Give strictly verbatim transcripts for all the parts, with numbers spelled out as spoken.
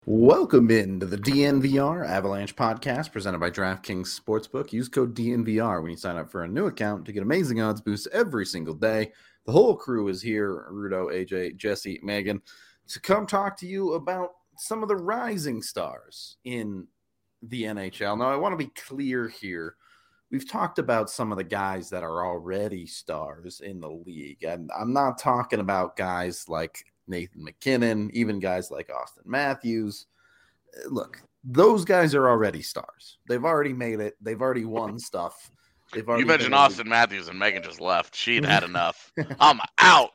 Welcome into the D N V R Avalanche podcast presented by DraftKings Sportsbook. Use code D N V R when you sign up for a new account to get amazing odds boosts every single day. The whole crew is here, Rudo, A J, Jesse, Megan, to come talk to you about some of the rising stars in the N H L. Now, I want to be clear here. We've talked about some of the guys that are already stars in the league, and I'm not talking about guys like Nathan McKinnon, even guys like Austin Matthews. Look, those guys are already stars. They've already made it. They've already won stuff. They've already you mentioned Austin Matthews and Megan just left. She'd had enough. I'm out.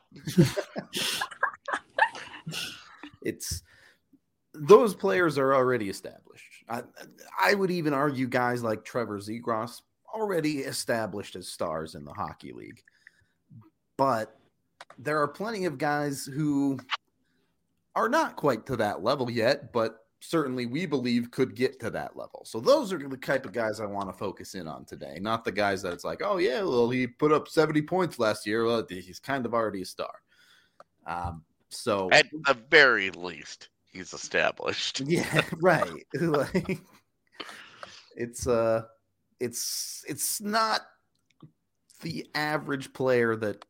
It's those players are already established. I, I would even argue guys like Trevor Zegras already established as stars in the hockey league. But there are plenty of guys who are not quite to that level yet, but certainly we believe could get to that level. So those are the type of guys I want to focus in on today, not the guys that it's like, oh, yeah, well, he put up seventy points last year. Well, he's kind of already a star. Um, so at the very least, he's established. Yeah, right. Like, it's uh, it's it's not the average player that.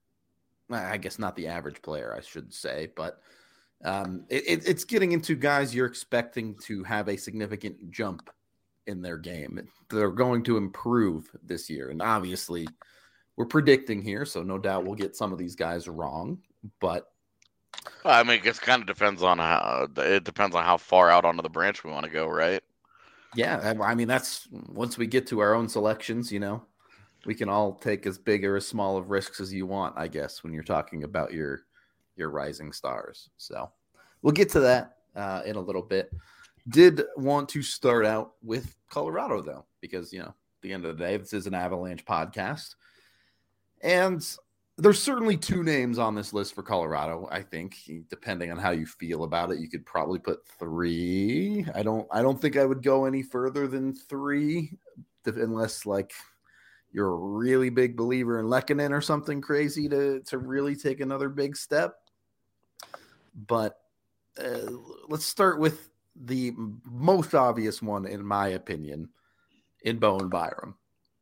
I guess not the average player, I should say, but um, it, it, it's getting into guys you're expecting to have a significant jump in their game. They're going to improve this year. And obviously, we're predicting here, so no doubt we'll get some of these guys wrong. But I mean, it kind of depends on how it depends on how far out onto the branch we want to go, right? Yeah, I mean, that's once we get to our own selections, you know. We can all take as big or as small of risks as you want, I guess, when you're talking about your your rising stars. So we'll get to that uh, in a little bit. Did want to start out with Colorado, though, because, you know, at the end of the day, this is an Avalanche podcast. And there's certainly two names on this list for Colorado, I think, depending on how you feel about it. You could probably put three. I don't, I don't think I would go any further than three, unless, like, you're a really big believer in Lehkonen or something crazy to, to really take another big step. But uh, let's start with the most obvious one, in my opinion, in Bowen Byram.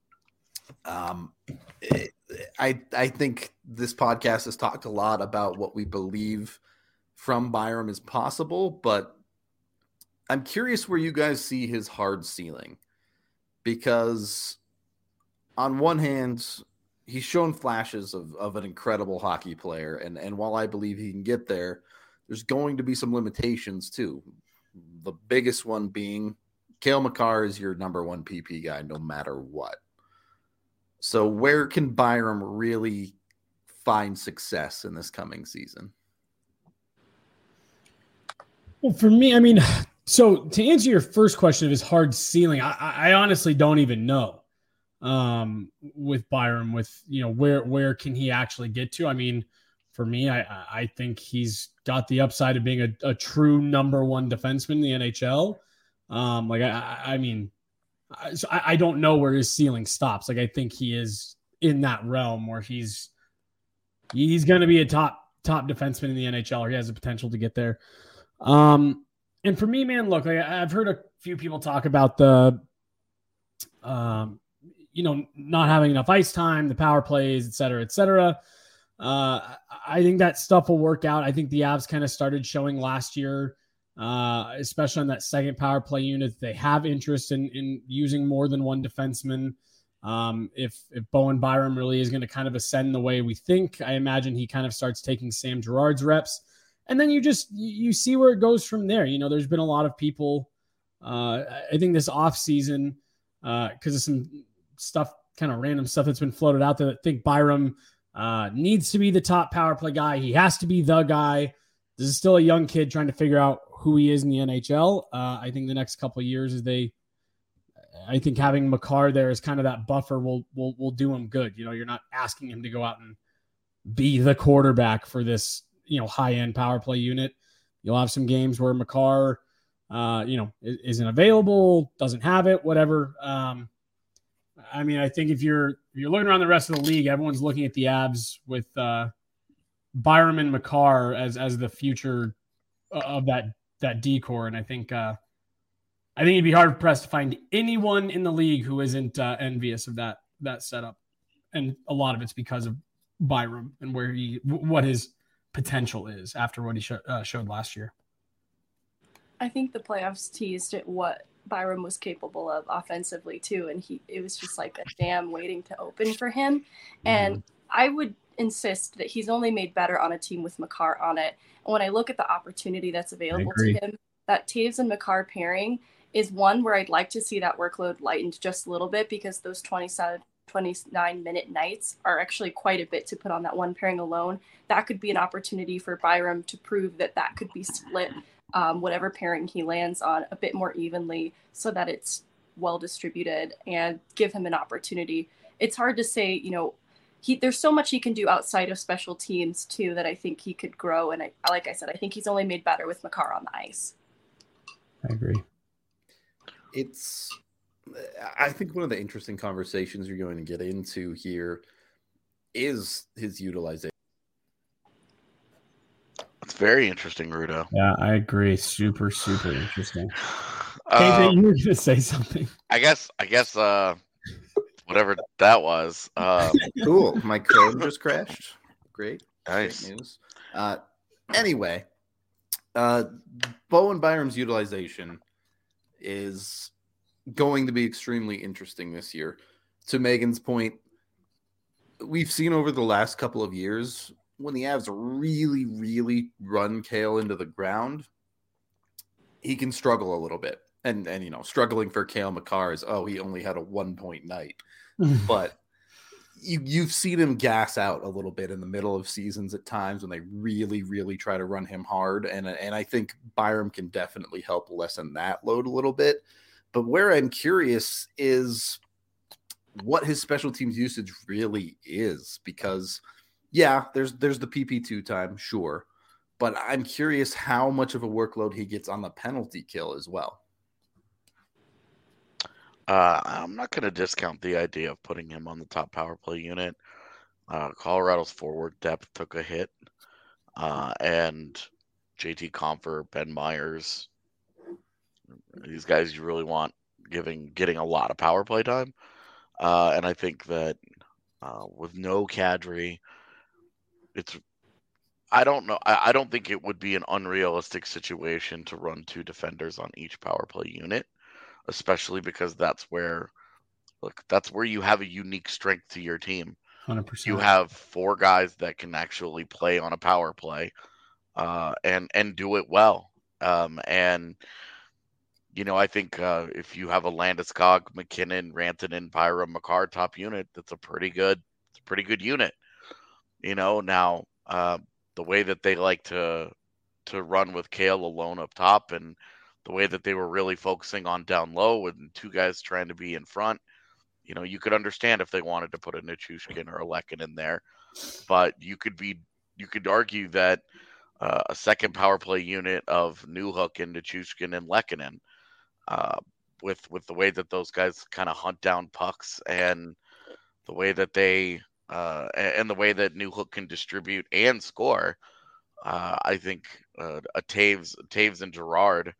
Um, it, I, I think this podcast has talked a lot about what we believe from Byram is possible, but I'm curious where you guys see his hard ceiling, because on one hand, he's shown flashes of, of an incredible hockey player. And, and while I believe he can get there, there's going to be some limitations too. The biggest one being Cale Makar is your number one P P guy, no matter what. So where can Byram really find success in this coming season? Well, for me, I mean, so to answer your first question of his hard ceiling, I, I honestly don't even know. Um, with Byram, with, you know, where, where can he actually get to? I mean, for me, I, I think he's got the upside of being a, a true number one defenseman in the N H L. Um, like, I, I mean, I, so I, I don't know where his ceiling stops. Like, I think he is in that realm where he's, he's going to be a top, top defenseman in the N H L, or he has the potential to get there. Um, and for me, man, look, like, I've heard a few people talk about the, um, you know, not having enough ice time, the power plays, et cetera, et cetera. Uh, I think that stuff will work out. I think the Avs kind of started showing last year, uh, especially on that second power play unit, they have interest in, in using more than one defenseman. Um, if, if Bowen Byram really is going to kind of ascend the way we think, I imagine he kind of starts taking Sam Girard's reps. And then you just, you see where it goes from there. You know, there's been a lot of people, uh, I think this off season, uh, cause of some stuff, kind of random stuff that's been floated out there, that think Byram uh, needs to be the top power play guy. He has to be the guy. This is still a young kid trying to figure out who he is in the N H L. Uh, I think the next couple of years is they, I think having Makar there as kind of that buffer will, will, will do him good. You know, you're not asking him to go out and be the quarterback for this, you know, high end power play unit. You'll have some games where Makar, uh, you know, isn't available, doesn't have it, whatever. Um, I mean, I think if you're if you're looking around the rest of the league, everyone's looking at the Avs with uh, Byram and Makar as as the future of that that D-core. And I think uh, I think you'd be hard pressed to find anyone in the league who isn't uh, envious of that that setup. And a lot of it's because of Byram and where he what his potential is after what he sh- uh, showed last year. I think the playoffs teased at what Byram was capable of offensively too, and he it was just like a dam waiting to open for him. And mm-hmm. I would insist that he's only made better on a team with Makar on it. And when I look at the opportunity that's available to him, that Toews and Makar pairing is one where I'd like to see that workload lightened just a little bit, because those twenty-seven, twenty-nine minute nights are actually quite a bit to put on that one pairing alone. That could be an opportunity for Byram to prove that that could be split, um, whatever pairing he lands on, a bit more evenly so that it's well distributed, and give him an opportunity. It's hard to say, you know, he there's so much he can do outside of special teams too that I think he could grow. And I, like I said, I think he's only made better with Makar on the ice. I agree. It's, I think one of the interesting conversations you're going to get into here is his utilization. It's very interesting, Rudo. Yeah, I agree. Super, super interesting. Um, K J, you were going to say something. I guess, I guess, uh, whatever that was. Um, cool. My code just crashed. Great. Nice. Great news. Uh, anyway, uh, Bowen Byram's utilization is going to be extremely interesting this year. To Megan's point, we've seen over the last couple of years when the Avs really, really run Cale into the ground, he can struggle a little bit. And, and you know, struggling for Cale Makar is, oh, he only had a one-point night. But you, you've seen him gas out a little bit in the middle of seasons at times when they really, really try to run him hard. And, and I think Byram can definitely help lessen that load a little bit. But where I'm curious is what his special teams usage really is, because, yeah, there's there's the P P two time, sure. But I'm curious how much of a workload he gets on the penalty kill as well. Uh, I'm not going to discount the idea of putting him on the top power play unit. Uh, Colorado's forward depth took a hit. Uh, and J T Compher, Ben Myers, these guys you really want giving getting a lot of power play time. Uh, and I think that uh, with no Kadri, it's I don't know. I, I don't think it would be an unrealistic situation to run two defenders on each power play unit, especially because that's where look, that's where you have a unique strength to your team. one hundred percent. You have four guys that can actually play on a power play uh, and and do it well. Um, and you know, I think uh, if you have a Landeskog, McKinnon, Rantanen, Byram, Makar top unit, that's a pretty good, it's a pretty good unit. You know, now uh, the way that they like to to run with Cale alone up top, and the way that they were really focusing on down low and two guys trying to be in front, you know, you could understand if they wanted to put a Nichushkin or a Lekin in there, but you could be, you could argue that uh, a second power play unit of Newhook and Nichushkin and Lekkonen, uh, with with the way that those guys kind of hunt down pucks and the way that they uh, and the way that Newhook can distribute and score, uh, I think uh, a Taves, Taves and Gerard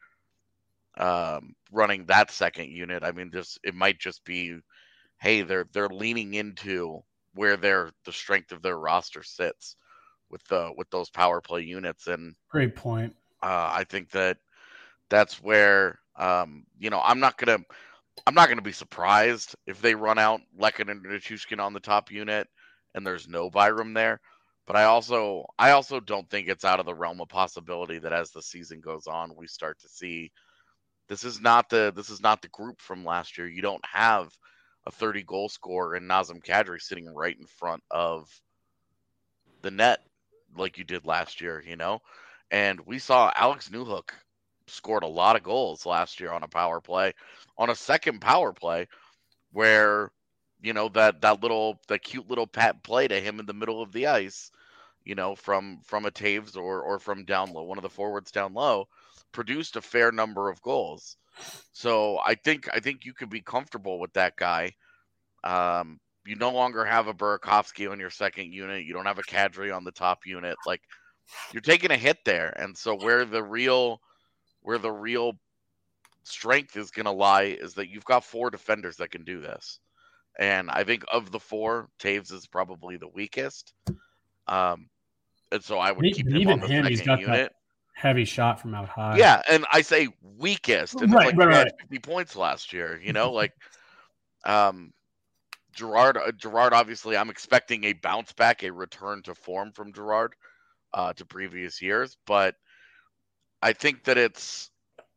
um, running that second unit. I mean, this it might just be, hey, they're they're leaning into where their the strength of their roster sits with the with those power play units. And great point. Uh, I think that that's where um, you know I'm not gonna I'm not gonna be surprised if they run out Lekin and Nichushkin on the top unit and there's no Byram there. But I also I also don't think it's out of the realm of possibility that as the season goes on, we start to see this is not the this is not the group from last year. You don't have a thirty goal scorer and Nazem Kadri sitting right in front of the net like you did last year, you know? And we saw Alex Newhook scored a lot of goals last year on a power play, on a second power play where, you know, that, that little, that cute little pat play to him in the middle of the ice, you know, from, from a Taves or, or from down low, one of the forwards down low, produced a fair number of goals. So I think, I think you could be comfortable with that guy. Um, you no longer have a Burakovsky on your second unit. You don't have a Kadri on the top unit. Like, you're taking a hit there. And so where the real, where the real strength is going to lie is that you've got four defenders that can do this. And I think of the four, Taves is probably the weakest. Um, and so I would He, keep him even on the him, he's second got unit. that heavy shot from out high. Yeah, and I say weakest, and Right, it's like right, he had right. fifty points last year. You know, like um, Gerard. Uh, Gerard, obviously, I'm expecting a bounce back, a return to form from Gerard uh, to previous years. But I think that it's.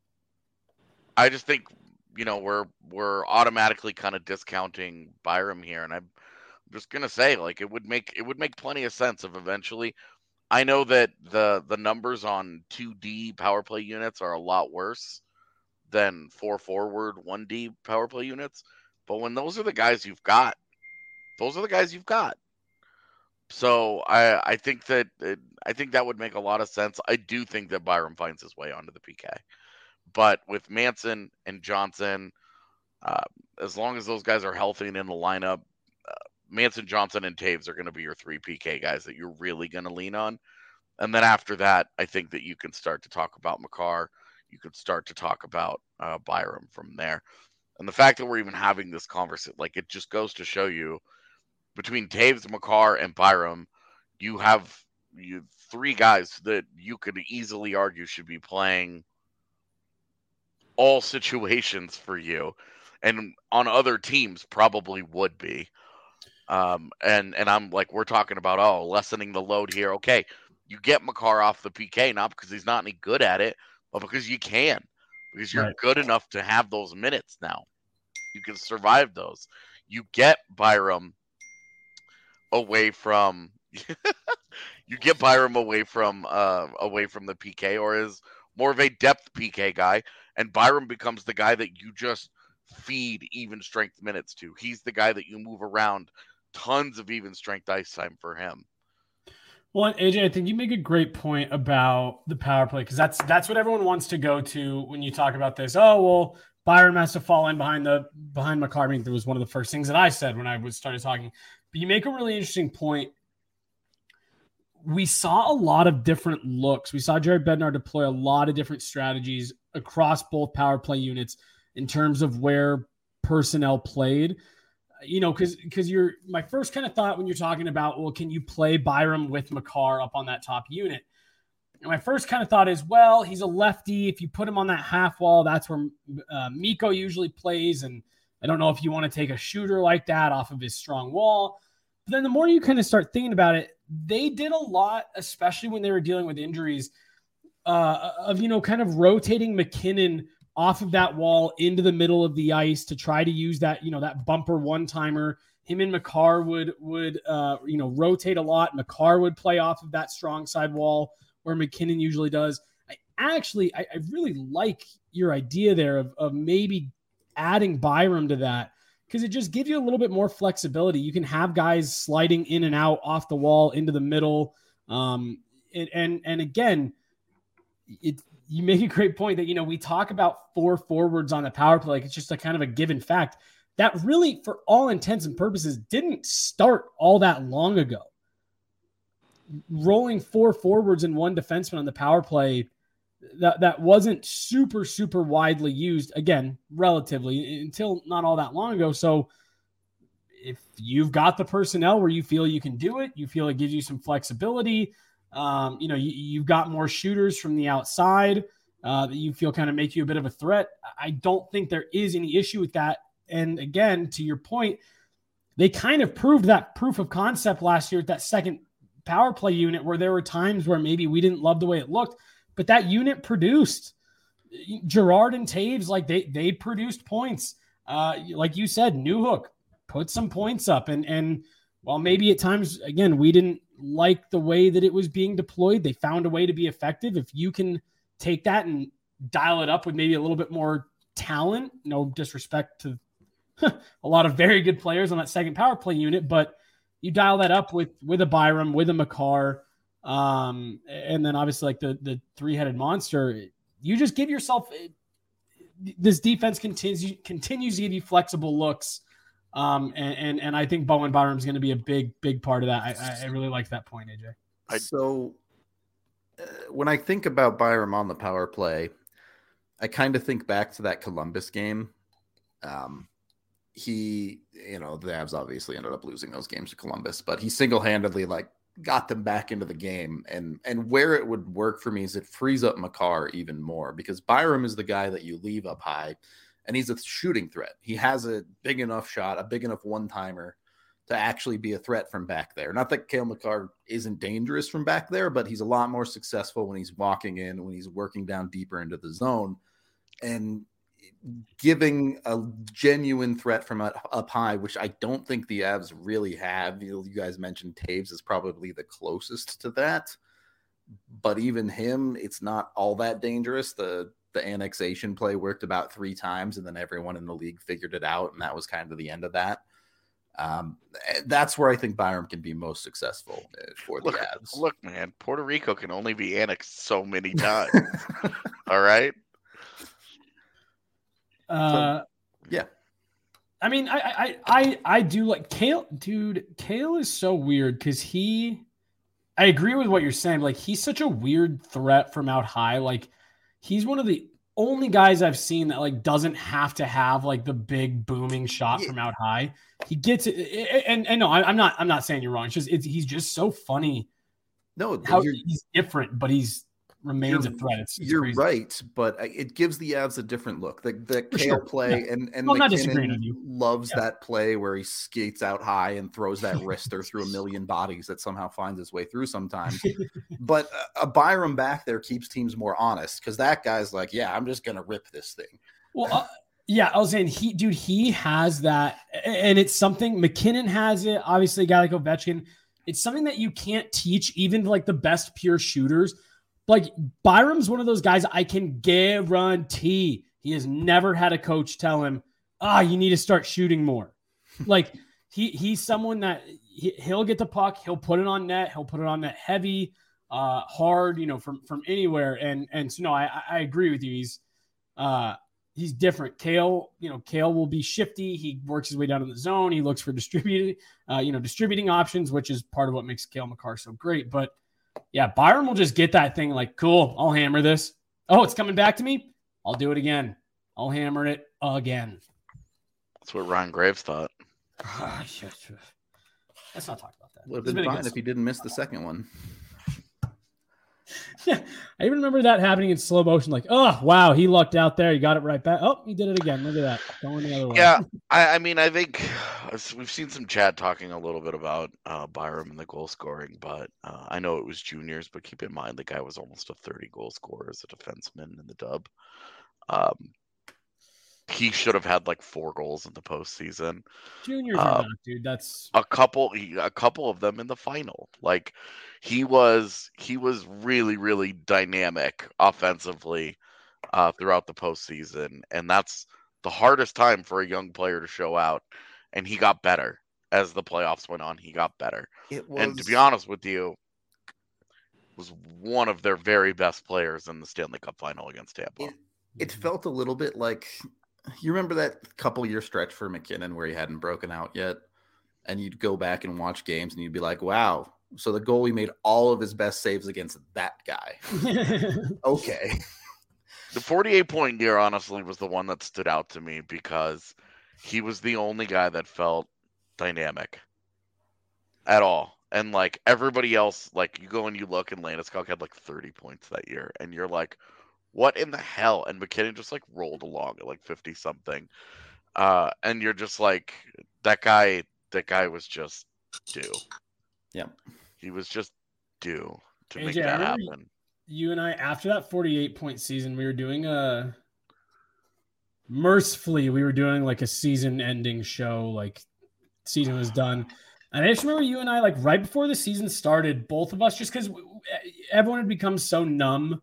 I just think you know we're we're automatically kind of discounting Byram here, and I'm just gonna say like it would make it would make plenty of sense if eventually. I know that the the numbers on two D power play units are a lot worse than four forward one D power play units, but when those are the guys you've got, those are the guys you've got. So I I think that it, I think that would make a lot of sense. I do think that Byram finds his way onto the P K, but with Manson and Johnson, uh, as long as those guys are healthy and in the lineup, uh, Manson, Johnson, and Taves are going to be your three P K guys that you're really going to lean on. And then after that, I think that you can start to talk about Makar. You can start to talk about uh, Byram from there. And the fact that we're even having this conversation, like it just goes to show you between Taves, Makar, and Byram, you have you three guys that you could easily argue should be playing all situations for you. And on other teams probably would be. Um, and, and I'm like, we're talking about, oh, lessening the load here. Okay, you get Makar off the P K, not because he's not any good at it, but because you can. Because you're Right. good enough to have those minutes now. You can survive those. You get Byram away from you get Byram away from uh, away from the P K, or is more of a depth P K guy, and Byram becomes the guy that you just feed even strength minutes to. He's the guy that you move around, tons of even strength ice time for him. Well, A J, I think you make a great point about the power play, because that's that's what everyone wants to go to when you talk about this. Oh, well, Byram has to fall in behind the behind Makar. I mean, that was one of the first things that I said when I was started talking. But you make a really interesting point. We saw a lot of different looks. We saw Jared Bednar deploy a lot of different strategies across both power play units in terms of where personnel played. You know, because because you're my first kind of thought when you're talking about, well, can you play Byram with Makar up on that top unit? And my first kind of thought is, well, he's a lefty. If you put him on that half wall, that's where uh, Mikko usually plays. And I don't know if you want to take a shooter like that off of his strong wall. But then the more you kind of start thinking about it, they did a lot, especially when they were dealing with injuries, uh, of, you know, kind of rotating McKinnon off of that wall into the middle of the ice to try to use that, you know, that bumper one-timer. Him and Makar would, would uh, you know, rotate a lot. Makar would play off of that strong side wall where McKinnon usually does. I actually, I, I really like your idea there of, of maybe adding Byram to that, because it just gives you a little bit more flexibility. You can have guys sliding in and out off the wall into the middle. Um, and, and, and again, it, you make a great point that, you know, we talk about four forwards on the power play. Like it's just a kind of a given fact that really, for all intents and purposes, didn't start all that long ago. Rolling four forwards and one defenseman on the power play, that, that wasn't super, super widely used, again, relatively, until not all that long ago. So if you've got the personnel where you feel you can do it, you feel it gives you some flexibility, Um, you know, you, you've got more shooters from the outside uh, that you feel kind of make you a bit of a threat. I don't think there is any issue with that. And again, to your point, they kind of proved that proof of concept last year at that second power play unit, where there were times where maybe we didn't love the way it looked, but that unit produced. Gerard and Taves, like they they produced points. Uh, like you said, Newhook put some points up, and and while maybe at times, again, we didn't like the way that it was being deployed, they found a way to be effective. If you can take that and dial it up with maybe a little bit more talent, no disrespect to a lot of very good players on that second power play unit, but you dial that up with, with a Byram, with a Makar, um, and then obviously like the, the three-headed monster, you just give yourself, this defense continues, continues to give you flexible looks. Um, and, and, and I think Bowen Byram is going to be a big, big part of that. I, I really like that point, A J. So uh, when I think about Byram on the power play, I kind of think back to that Columbus game. Um, he, you know, the Avs obviously ended up losing those games to Columbus, but he single-handedly like got them back into the game. And and where it would work for me is it frees up Makar even more, because Byram is the guy that you leave up high, and he's a shooting threat. He has a big enough shot, a big enough one-timer to actually be a threat from back there. Not that Cale Makar isn't dangerous from back there, but he's a lot more successful when he's walking in, when he's working down deeper into the zone. And giving a genuine threat from up high, which I don't think the Avs really have. You, you guys mentioned Taves is probably the closest to that, but even him, it's not all that dangerous. The the annexation play worked about three times, and then everyone in the league figured it out, and that was kind of the end of that. Um, that's where I think Byram can be most successful for the look, Avs. Look, man, Puerto Rico can only be annexed so many times. All right. Uh, so, yeah. I mean, I, I, I, I do like Cale, dude. Cale is so weird because he, I agree with what you're saying. Like, he's such a weird threat from out high. Like, he's one of the only guys I've seen that like doesn't have to have like the big booming shot yeah. from out high. He gets it, and and no, I'm not, I'm not saying you're wrong. It's just, it's, he's just so funny. No, how he's different, but he's remains a threat. It's, it's you're crazy. right, but it gives the Avs a different look. The the For Cale sure. play yeah. and and well, McKinnon loves yeah. that play where he skates out high and throws that wrister through a million bodies that somehow finds its way through sometimes. But a Byram back there keeps teams more honest, because that guy's like, yeah, I'm just gonna rip this thing. Well, uh, yeah, I was saying he, dude, he has that, and it's something McKinnon has it. Obviously, a guy like Ovechkin, it's something that you can't teach even like the best pure shooters. Like, Byram's one of those guys I can guarantee he has never had a coach tell him, ah, you need to start shooting more. Like, he he's someone that he, he'll get the puck, he'll put it on net, he'll put it on net heavy, uh, hard, you know, from from anywhere. And and so no, I I agree with you. He's uh he's different. Cale, you know, Cale will be shifty. He works his way down in the zone. He looks for distributed, uh, you know, distributing options, which is part of what makes Cale Makar so great. But yeah, Byram will just get that thing like, cool, I'll hammer this. Oh, it's coming back to me. I'll do it again. I'll hammer it again. That's what Ryan Graves thought. Let's not talk about that. Would have been fine if he didn't miss the second one. Yeah, I even remember that happening in slow motion. Like, oh, wow, he lucked out there. He got it right back. Oh, he did it again. Look at that. Going the other way. Yeah, I, I mean, I think we've seen some chat talking a little bit about uh, Byram and the goal scoring, but uh, I know it was juniors, but keep in mind the guy was almost a thirty goal scorer as a defenseman in the dub. Um, he should have had like four goals in the postseason. Juniors um, are not, dude. That's a couple, a couple of them in the final. Like, he was, he was really, really dynamic offensively uh, throughout the postseason, and that's the hardest time for a young player to show out. And he got better as the playoffs went on. He got better, It was... and to be honest with you, was one of their very best players in the Stanley Cup final against Tampa. It, it felt a little bit like, you remember that couple year stretch for McKinnon where he hadn't broken out yet, and you'd go back and watch games and you'd be like, wow, so the goalie made all of his best saves against that guy. Okay. The forty-eight point year honestly was the one that stood out to me because he was the only guy that felt dynamic at all. And like everybody else, like you go and you look, and Landeskog had like thirty points that year, and you're like, what in the hell? And McKinnon just like rolled along at like fifty something. Uh, and you're just like, that guy, that guy was just due. Yeah. He was just due to A J, make that happen. You and I, after that forty-eight point season, we were doing a, mercifully, we were doing like a season ending show, like season was done. And I just remember you and I, like right before the season started, both of us, just because everyone had become so numb,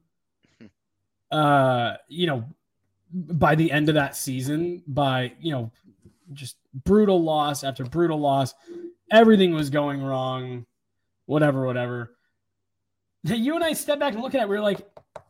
uh, you know, by the end of that season, by, you know, just brutal loss after brutal loss, everything was going wrong, whatever, whatever. You and I stepped back and look at it, we were like,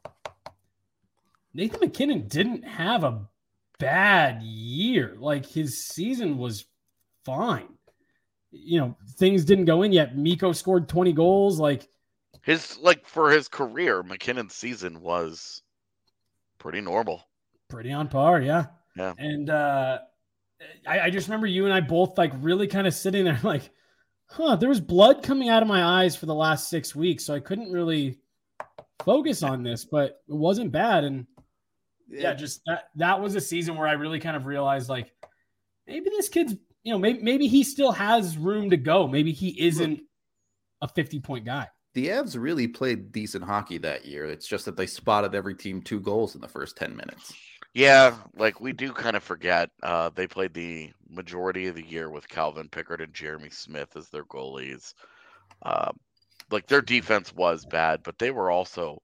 Nathan McKinnon didn't have a bad year. Like, his season was fine. You know, things didn't go in yet. Mikko scored twenty goals. Like, his, like, for his career, McKinnon's season was pretty normal. Pretty on par, yeah. Yeah. And uh, I, I just remember you and I both like really kind of sitting there like, huh, there was blood coming out of my eyes for the last six weeks. So I couldn't really focus on this, but it wasn't bad. And yeah, just that, that was a season where I really kind of realized like, maybe this kid's, you know, maybe, maybe he still has room to go. Maybe he isn't a fifty point guy. The Avs really played decent hockey that year. It's just that they spotted every team two goals in the first ten minutes. Yeah, like we do kind of forget. Uh, they played the majority of the year with Calvin Pickard and Jeremy Smith as their goalies. Uh, like their defense was bad, but they were also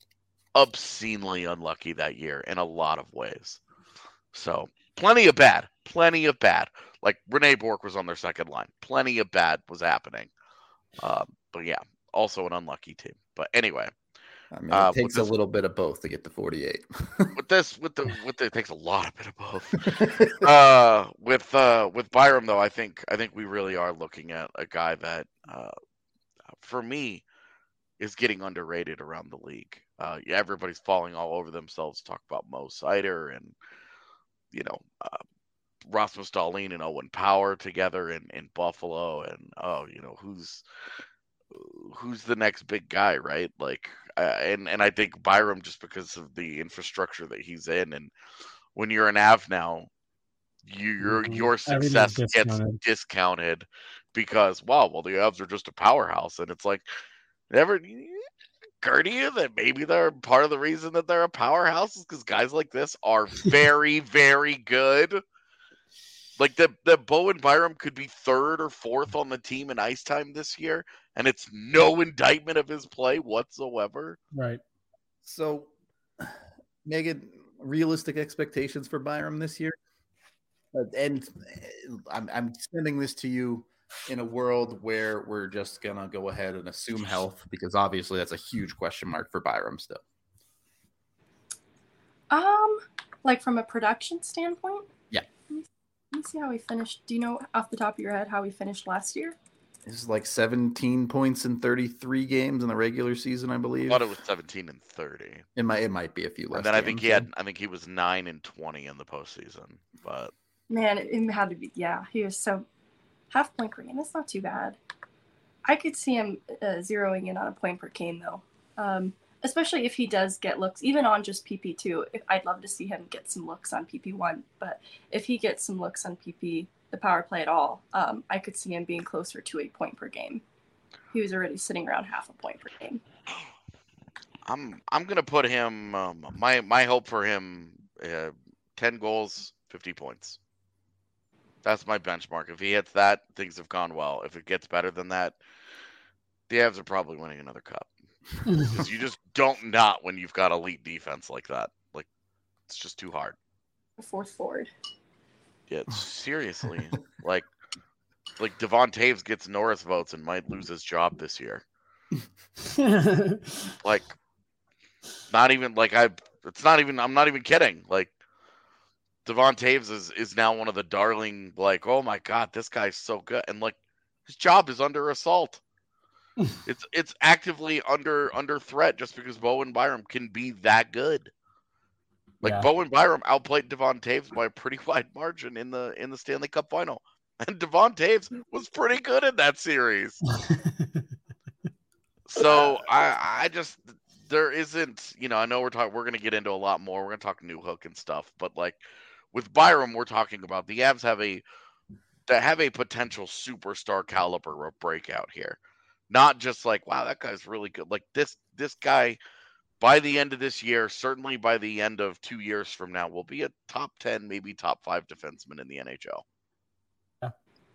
obscenely unlucky that year in a lot of ways. So plenty of bad, plenty of bad. Like Rene Bourque was on their second line. Plenty of bad was happening. Uh, but yeah. Also an unlucky team, but anyway, I mean, it uh, takes this, a little bit of both to get to forty-eight. with this, with the, with the, it takes a lot of bit of both. uh, with uh, with Byram though, I think I think we really are looking at a guy that, uh, for me, is getting underrated around the league. Uh, yeah, everybody's falling all over themselves to talk about Mo Seider and you know uh, Rasmus Dahlin and Owen Power together in in Buffalo, and oh, you know who's. who's the next big guy, right? Like, uh, and and I think Byram, just because of the infrastructure that he's in, and when you're an Av now, you, your Mhm. your success gets discounted. discounted because wow, well the Avs are just a powerhouse, and it's like never occur to you that maybe they're part of the reason that they're a powerhouse is because guys like this are very very good. Like the the Bowen Byram could be third or fourth on the team in ice time this year, and it's no indictment of his play whatsoever. Right. So, Megan, realistic expectations for Byram this year, uh, and I'm I'm sending this to you in a world where we're just gonna go ahead and assume health, because obviously that's a huge question mark for Byram still. Um, like from a production standpoint. Yeah. Let me see how we finished. Do you know off the top of your head how we finished last year? This is like seventeen points in thirty-three games in the regular season, I believe. I thought it was seventeen and thirty. It might it might be a few less. And then I think games, he had yeah. I think he was nine and twenty in the postseason. But Man, it, it had to be. Yeah, he was so half point per game. That's not too bad. I could see him uh, zeroing in on a point per game though, um, especially if he does get looks, even on just P P two. If, I'd love to see him get some looks on P P one, but if he gets some looks on P P, the power play at all, um, I could see him being closer to a point per game. He was already sitting around half a point per game. I'm I'm gonna put him. Um, my my hope for him: uh, ten goals, fifty points. That's my benchmark. If he hits that, things have gone well. If it gets better than that, the Avs are probably winning another cup. Because you just don't not when you've got elite defense like that. Like it's just too hard. The fourth forward. Yeah, seriously. like like Devon Taves gets Norris votes and might lose his job this year. Like not even like I it's not even I'm not even kidding. Like Devon Taves is, is now one of the darling, like, oh my God, this guy's so good. And like his job is under assault. it's it's actively under under threat just because Bowen Byram can be that good. Like Yeah. Bowen Byram outplayed Devon Taves by a pretty wide margin in the in the Stanley Cup final. And Devon Taves was pretty good in that series. So I I just there isn't, you know, I know we're talking we're gonna get into a lot more. We're gonna talk New Hook and stuff, but like with Byram, we're talking about the Avs have a that have a potential superstar caliber of breakout here. Not just like, wow, that guy's really good. Like this this guy by the end of this year, certainly by the end of two years from now, will be a top ten, maybe top five defenseman in the N H L. Yeah.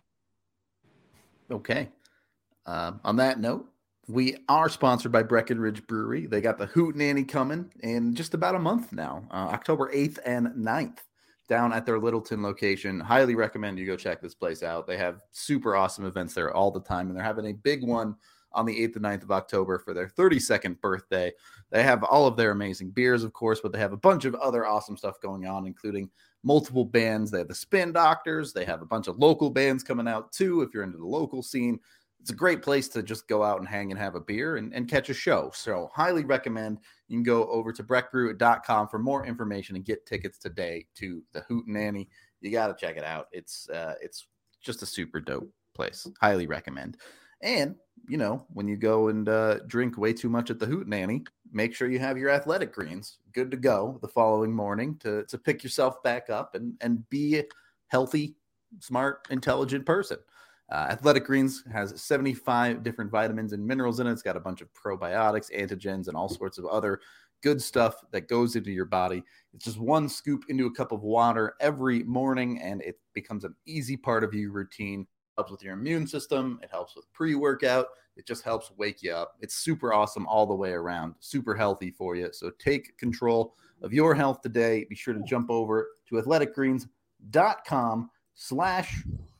Okay. Um, on that note, we are sponsored by Breckenridge Brewery. They got the Hootenanny coming in just about a month now, uh, October eighth and ninth, down at their Littleton location. Highly recommend you go check this place out. They have super awesome events there all the time, and they're having a big one on the eighth and ninth of October for their thirty-second birthday. They have all of their amazing beers, of course, but they have a bunch of other awesome stuff going on, including multiple bands. They have the Spin Doctors. They have a bunch of local bands coming out, too, if you're into the local scene. it's a great place to just go out and hang and have a beer and, and catch a show. So highly recommend. You can go over to breck brew dot com for more information and get tickets today to the Hootenanny. You got to check it out. It's uh, it's just a super dope place. Highly recommend. And, you know, when you go and uh, drink way too much at the Hootenanny, make sure you have your athletic greens good to go the following morning to, to pick yourself back up and, and be a healthy, smart, intelligent person. Uh, Athletic Greens has seventy-five different vitamins and minerals in it. It's got a bunch of probiotics, antigens, and all sorts of other good stuff that goes into your body. It's just one scoop into a cup of water every morning, and it becomes an easy part of your routine. It helps with your immune system. It helps with pre-workout. It just helps wake you up. It's super awesome all the way around, super healthy for you. So take control of your health today. Be sure to jump over to athletic greens dot com slash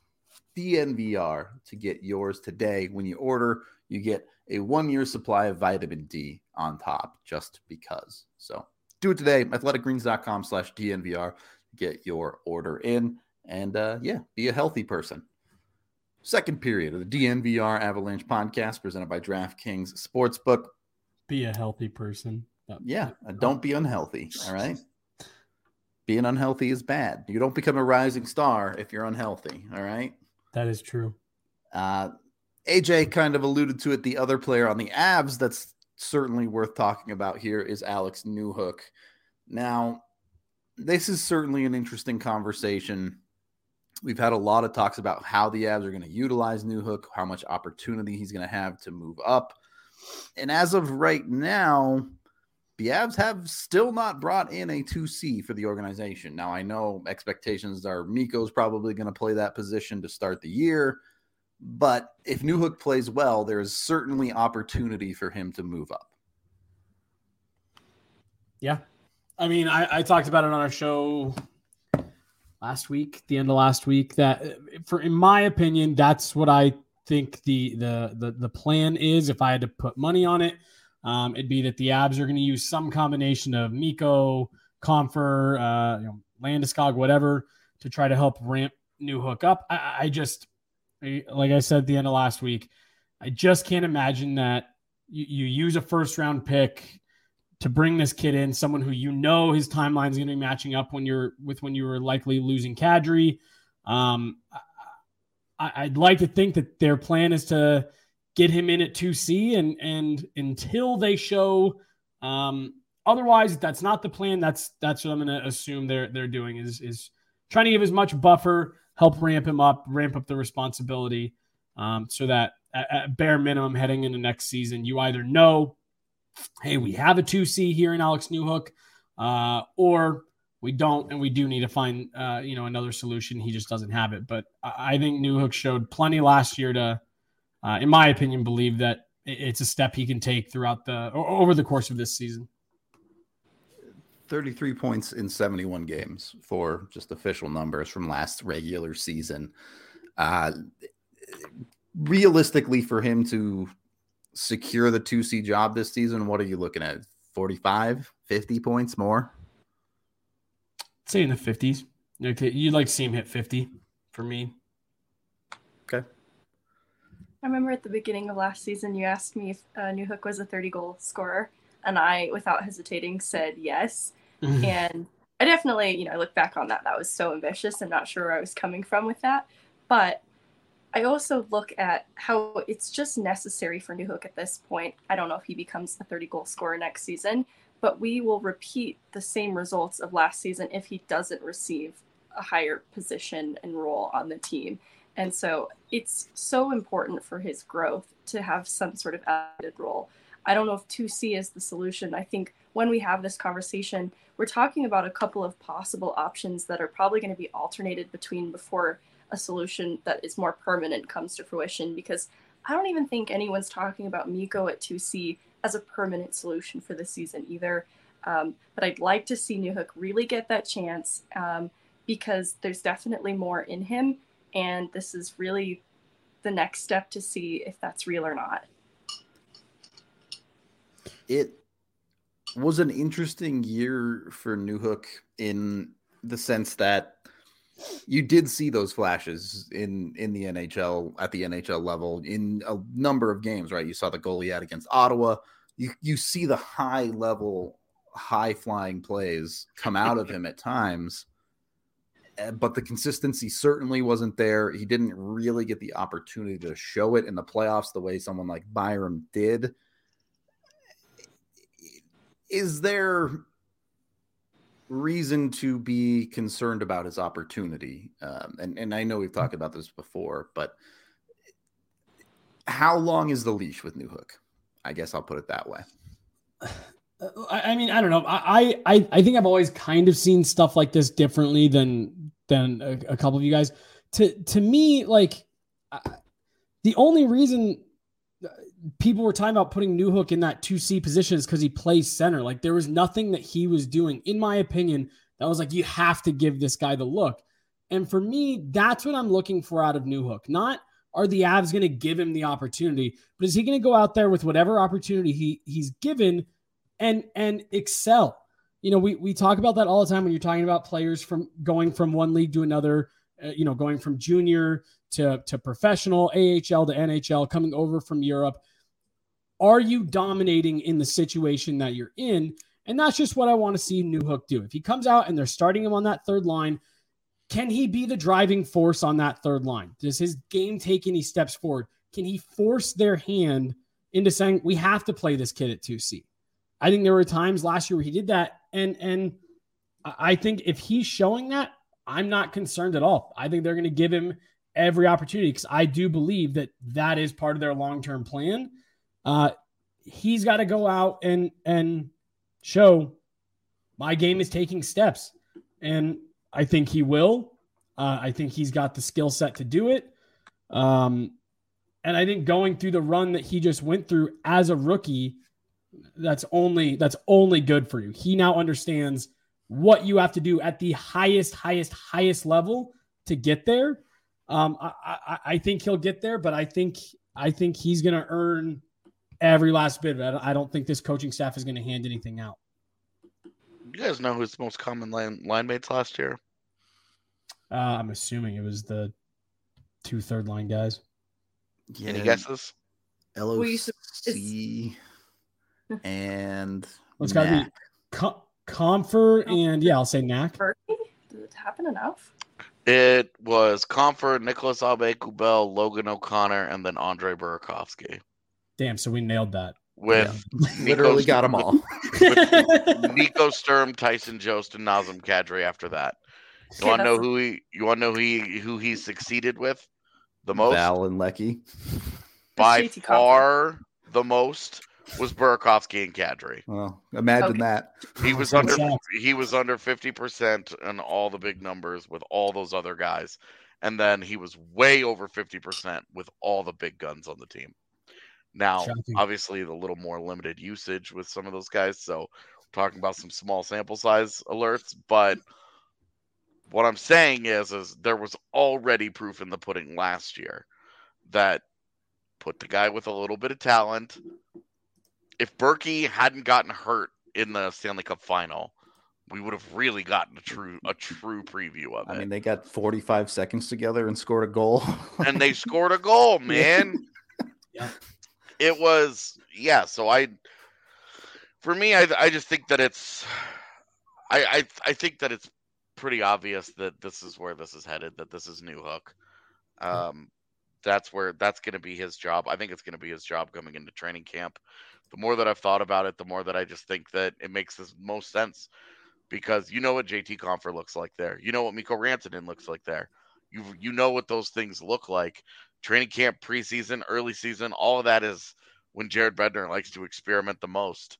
D N V R to get yours today. When you order, you get a one-year supply of vitamin D on top, just because. So do it today. athletic greens dot com slash D N V R. Get your order in. And, uh, yeah, be a healthy person. Second period of the D N V R Avalanche podcast presented by DraftKings Sportsbook. Be a healthy person. Yeah, don't be unhealthy, all right? Being unhealthy is bad. You don't become a rising star if you're unhealthy, all right? That is true. Uh, A J kind of alluded to it. The other player on the Avs that's certainly worth talking about here is Alex Newhook. Now, this is certainly an interesting conversation. We've had a lot of talks about how the Avs are going to utilize Newhook, how much opportunity he's going to have to move up. And as of right now, the Avs have still not brought in a two C for the organization. Now, I know expectations are Mikko's probably going to play that position to start the year, but if Newhook plays well, there's certainly opportunity for him to move up. Yeah. I mean, I, I talked about it on our show last week, the end of last week, that for, in my opinion, that's what I think the, the, the, the plan is. If I had to put money on it, Um, it'd be that the Avs are going to use some combination of Mikko, Compher, uh, you know, Landeskog, whatever, to try to help ramp Newhook up. I, I just, like I said at the end of last week, I just can't imagine that you, you use a first round pick to bring this kid in, someone who you know his timeline is going to be matching up when you're with when you were likely losing Kadri. Um, I, I'd like to think that their plan is to get him in at two C, and and until they show um, otherwise, if that's not the plan, that's that's what I'm going to assume they're they're doing is is trying to give as much buffer, help ramp him up, ramp up the responsibility, um, so that at, at bare minimum heading into next season, you either know, hey, we have a two C here in Alex Newhook, uh, or we don't, and we do need to find uh, you know another solution. He just doesn't have it. But I, I think Newhook showed plenty last year to. Uh, in my opinion, believe that it's a step he can take throughout the over the course of this season. thirty-three points in seventy-one games for just official numbers from last regular season. Uh, realistically, for him to secure the two C job this season, what are you looking at? forty-five, fifty points more? I'd say in the fifties. Okay, you'd like to see him hit fifty for me. Okay. I remember at the beginning of last season, you asked me if uh, Newhook was a thirty-goal scorer, and I, without hesitating, said yes. And I definitely, you know, I look back on that. That was so ambitious. I'm not sure where I was coming from with that. But I also look at how it's just necessary for Newhook at this point. I don't know if he becomes a thirty-goal scorer next season, but we will repeat the same results of last season if he doesn't receive a higher position and role on the team. And so it's so important for his growth to have some sort of added role. I don't know if two C is the solution. I think when we have this conversation, we're talking about a couple of possible options that are probably going to be alternated between before a solution that is more permanent comes to fruition, because I don't even think anyone's talking about Mikko at two C as a permanent solution for the season either. Um, but I'd like to see Newhook really get that chance um, because there's definitely more in him. And this is really the next step to see if that's real or not. It was an interesting year for Newhook in the sense that you did see those flashes in in the N H L at the N H L level in a number of games, right? You saw the goal he had against Ottawa. You you see the high level, high flying plays come out of him at times, but the consistency certainly wasn't there. He didn't really get the opportunity to show it in the playoffs the way someone like Byram did. Is there reason to be concerned about his opportunity? Um, and, and I know we've talked about this before, but how long is the leash with Newhook? I guess I'll put it that way. I mean, I don't know. I, I, I think I've always kind of seen stuff like this differently than than a, a couple of you guys. To to me, like the only reason people were talking about putting Newhook in that two C position is because he plays center. Like there was nothing that he was doing, in my opinion, that was like, you have to give this guy the look. And for me, that's what I'm looking for out of Newhook. Not are the Avs going to give him the opportunity, but is he going to go out there with whatever opportunity he he's given and and excel? You know, we we talk about that all the time when you're talking about players from going from one league to another, uh, you know, going from junior to, to professional, A H L to N H L, coming over from Europe. Are you dominating in the situation that you're in? And that's just what I want to see Newhook do. If he comes out and they're starting him on that third line, can he be the driving force on that third line? Does his game take any steps forward? Can he force their hand into saying, we have to play this kid at two C? I think there were times last year where he did that. And, and I think if he's showing that, I'm not concerned at all. I think they're going to give him every opportunity because I do believe that that is part of their long-term plan. Uh, he's got to go out and, and show my game is taking steps. And I think he will. Uh, I think he's got the skill set to do it. Um, and I think going through the run that he just went through as a rookie, that's only, that's only good for you. He now understands what you have to do at the highest, highest, highest level to get there. Um, I, I, I think he'll get there, but I think, I think he's going to earn every last bit of it. I don't think this coaching staff is going to hand anything out. You guys know who's the most common line, line mates last year? Uh, I'm assuming it was the two third line guys. Yeah. Any guesses? L O C and It's got to be Com- Comfer and yeah, I'll say Knack. Does it happen enough? It was Comfort, Nicholas Aube-Kubel, Logan O'Connor, and then Andre Burakovsky. Damn, so we nailed that. With yeah. literally got them all. With Nico Sturm, Tyson Jost, and Nazem Kadri after that. You want to know who he? You want to know who he who he succeeded with the most? Val and Lecky. By far, the most was Burakovsky and Kadri. Well, imagine okay. that. He was under he was under fifty percent on all the big numbers with all those other guys, and then he was way over fifty percent with all the big guns on the team. Now, Shocking. Obviously, the little more limited usage with some of those guys. So, we're talking about some small sample size alerts, but. What I'm saying is, is there was already proof in the pudding last year that put the guy with a little bit of talent. If Berkey hadn't gotten hurt in the Stanley Cup final, we would have really gotten a true a true preview of it. I mean, they got forty-five seconds together and scored a goal. And they scored a goal, man. Yeah. It was, yeah, so I, for me, I I just think that it's, I I, I think that it's pretty obvious that this is where this is headed, that this is Newhook. Um, that's where that's going to be his job. I think it's going to be his job coming into training camp. The more that I've thought about it, the more that I just think that it makes the most sense because you know what J T Compher looks like there. You know what Mikko Rantanen looks like there. You you know what those things look like. Training camp, preseason, early season, all of that is when Jared Bednar likes to experiment the most.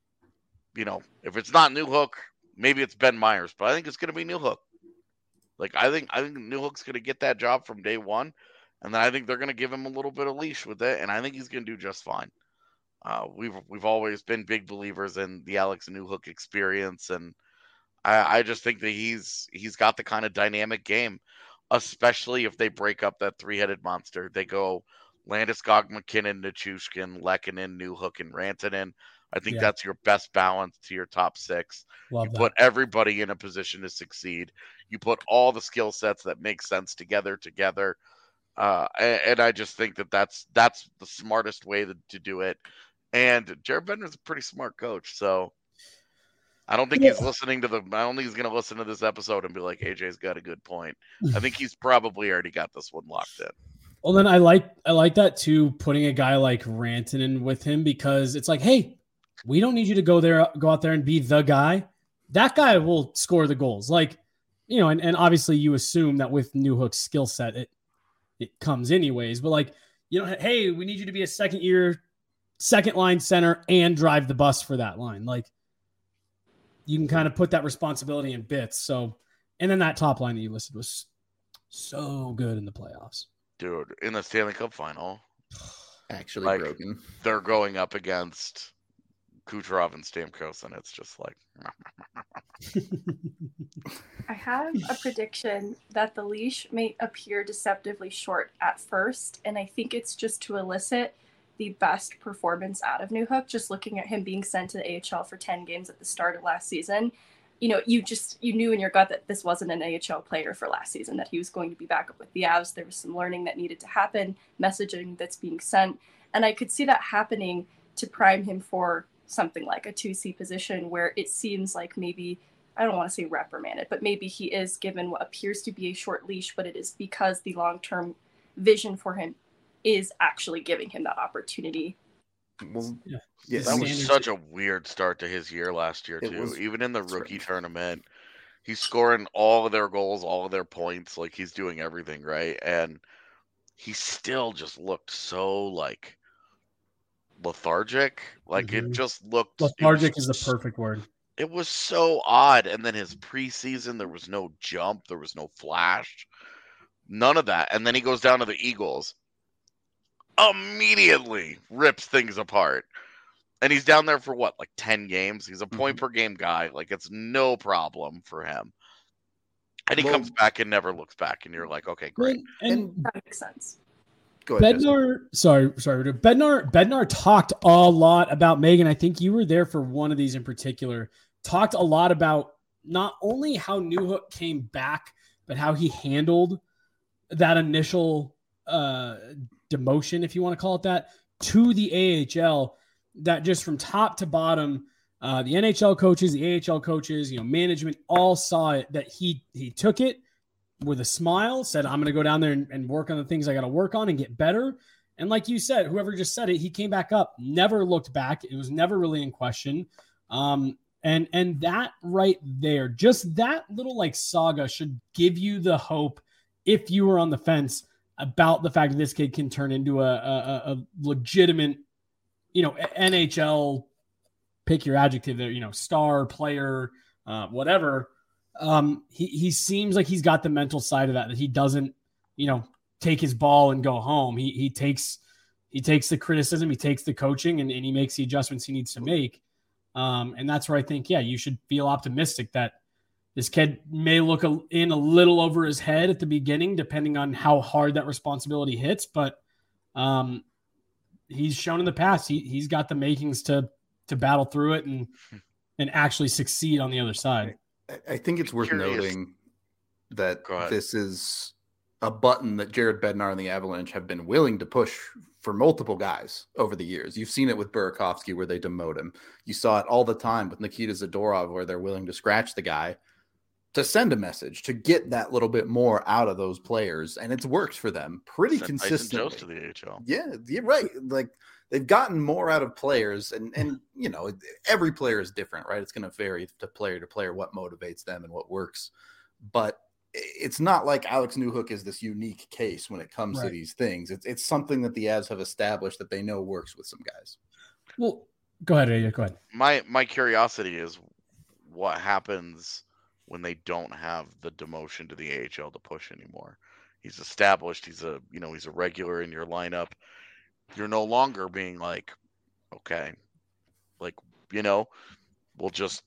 You know, if it's not Newhook, maybe it's Ben Myers, but I think it's going to be Newhook. Like I think I think Newhook's going to get that job from day one, and then I think they're going to give him a little bit of leash with it, and I think he's going to do just fine. Uh, we've we've always been big believers in the Alex Newhook experience, and I, I just think that he's he's got the kind of dynamic game, especially if they break up that three-headed monster. They go Landeskog, McKinnon, Nichushkin, Lehkonen, Newhook, and Rantanen. I think Yeah. that's your best balance to your top six. Love you that. put everybody in a position to succeed. You put all the skill sets that make sense together together. Uh, and, and I just think that that's that's the smartest way to, to do it. And Jared Bednar's a pretty smart coach, so I don't think Yeah. he's listening to the. I don't think he's going to listen to this episode and be like, "A J's got a good point." I think he's probably already got this one locked in. Well, then I like I like that too. Putting a guy like Rantanen with him, because it's like, hey, we don't need you to go there, go out there and be the guy. That guy will score the goals. Like, you know, and, and obviously you assume that with Newhook's skill set, it it comes anyways. But like, you know, hey, we need you to be a second year, second line center and drive the bus for that line. Like, you can kind of put that responsibility in bits. So, and then that top line that you listed was so good in the playoffs. Dude, in the Stanley Cup final, Actually like, broken. they're going up against Kucherov and Stamkos, and it's just like. I have a prediction that the leash may appear deceptively short at first, and I think it's just to elicit the best performance out of Newhook. Just looking at him being sent to the A H L for ten games at the start of last season, you know, you just you knew in your gut that this wasn't an A H L player for last season, that he was going to be back up with the Avs. There was some learning that needed to happen, messaging that's being sent, and I could see that happening to prime him for something like a two C position where it seems like maybe, I don't want to say reprimanded, but maybe he is given what appears to be a short leash, but it is because the long-term vision for him is actually giving him that opportunity. Well, Yeah. yeah, That I was mean, such a weird start to his year last year, It too. was Even in the rookie strange. tournament, he's scoring all of their goals, all of their points. Like, he's doing everything right. And he still just looked so, like, lethargic. Like, Mhm. it just looked. Lethargic it was, is the perfect word. It was so odd. And then his preseason, there was no jump, there was no flash, none of that. And then he goes down to the Eagles, immediately rips things apart. And he's down there for what, like ten games? He's a point Mhm. per game guy. Like, it's no problem for him. And he Well- comes back and never looks back. And you're like, okay, great. And, and And That makes sense. go ahead. Jesse. Bednar, sorry, sorry, Bednar, Bednar talked a lot about Megan. I think you were there for one of these in particular. Talked a lot about not only how Newhook came back, but how he handled that initial uh, demotion, if you want to call it that, to the A H L. That just from top to bottom, uh, the N H L coaches, the A H L coaches, you know, management, all saw it. That he he took it with a smile, said, I'm going to go down there and, and work on the things I got to work on and get better. And like you said, whoever just said it, he came back up, never looked back. It was never really in question. Um, and, and that right there, just that little like saga should give you the hope, if you were on the fence, about the fact that this kid can turn into a, a, a legitimate, you know, N H L, pick your adjective there, you know, star player, uh, whatever. Um, he, he seems like he's got the mental side of that, that he doesn't, you know, take his ball and go home. He, he takes, he takes the criticism, he takes the coaching, and, and he makes the adjustments he needs to make. Um, and that's where I think, yeah, you should feel optimistic that this kid may look a, in a little over his head at the beginning, depending on how hard that responsibility hits. But um, he's shown in the past, he, he's got the makings to, to battle through it and, and actually succeed on the other side. I- I think it's worth Curious. noting that Go ahead. this is a button that Jared Bednar and the Avalanche have been willing to push for multiple guys over the years. You've seen it with Burakovsky where they demote him. You saw it all the time with Nikita Zadorov where they're willing to scratch the guy to send a message, to get that little bit more out of those players. And it's worked for them pretty Sent Tyson consistently. Jost to the A H L. Yeah, you're right. Like they've gotten more out of players, and and you know every player is different, right? It's going to vary to player to player what motivates them and what works. But it's not like Alex Newhook is this unique case when it comes Right. to these things. It's it's something that the Avs have established that they know works with some guys. Well, go ahead, Adia, go ahead. My my curiosity is what happens when they don't have the demotion to the A H L to push anymore. He's established. He's a you know he's a regular in your lineup. You're no longer being like, okay, like you know, we'll just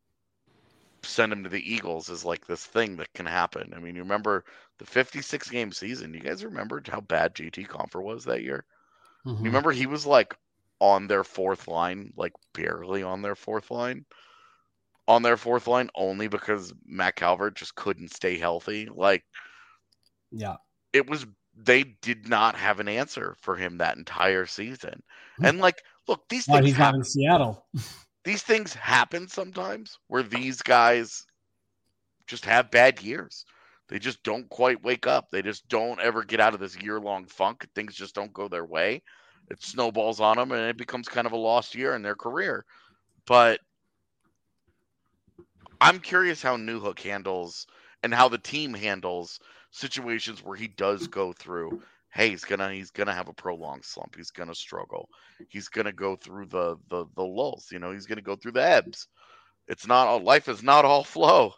send him to the Eagles is like this thing that can happen. I mean, you remember the fifty-six game season? You guys remember how bad J T Compher was that year? Mhm. You remember he was like on their fourth line, like barely on their fourth line. On their fourth line only because Matt Calvert just couldn't stay healthy. Like, yeah, it was, they did not have an answer for him that entire season. And like, look, these why things he's not happen. in Seattle. These things happen sometimes where these guys just have bad years. They just don't quite wake up. They just don't ever get out of this year-long funk. Things just don't go their way. It snowballs on them, and it becomes kind of a lost year in their career. But I'm curious how Newhook handles and how the team handles situations where he does go through, hey, he's gonna he's gonna have a prolonged slump. He's gonna struggle. He's gonna go through the the the lulls. You know, he's gonna go through the ebbs. It's not all, life is not all flow.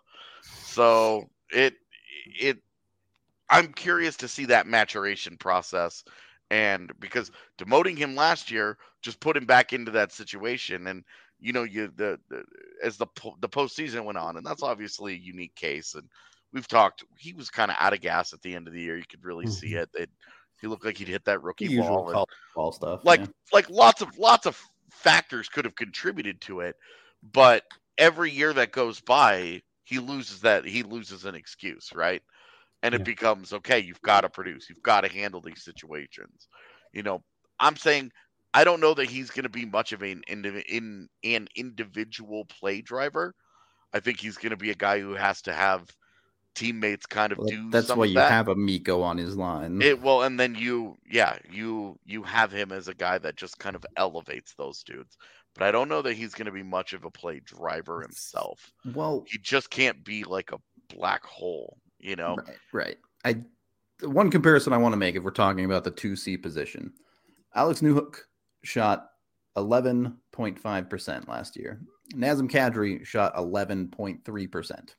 So it it I'm curious to see that maturation process. And because demoting him last year just put him back into that situation, and you know, you the, the as the the postseason went on, and that's obviously a unique case. And we've talked, he was kind of out of gas at the end of the year. You could really mm-hmm. see it. It he looked like he'd hit that rookie the ball, usual ball stuff. Like yeah. like lots of lots of factors could have contributed to it, but every year that goes by, he loses that he loses an excuse, right? And it yeah. becomes, okay, you've got to produce. You've got to handle these situations. You know, I'm saying I don't know that he's going to be much of an, in, in, an individual play driver. I think he's going to be a guy who has to have teammates kind of well, do that's some why of you that. have a Mikko on his line. It well, and then you, yeah, you you have him as a guy that just kind of elevates those dudes. But I don't know that he's going to be much of a play driver himself. Well, he just can't be like a black hole. You know, right, right. I one comparison I want to make, if we're talking about the two C position, Alex Newhook shot eleven point five percent last year. Nazem Kadri shot eleven point three percent.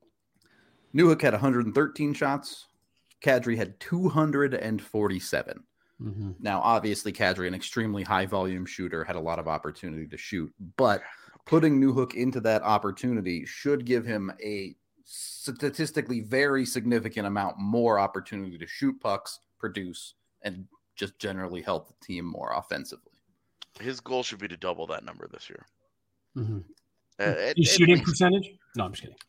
Newhook had one hundred thirteen shots. Kadri had two hundred forty-seven. Mm-hmm. Now, obviously, Kadri, an extremely high volume shooter, had a lot of opportunity to shoot, but putting Newhook into that opportunity should give him a statistically very significant amount more opportunity to shoot pucks, produce, and just generally help the team more offensively. His goal should be to double that number this year. Mm-hmm. Uh, at, His shooting least, percentage? No, I'm just kidding.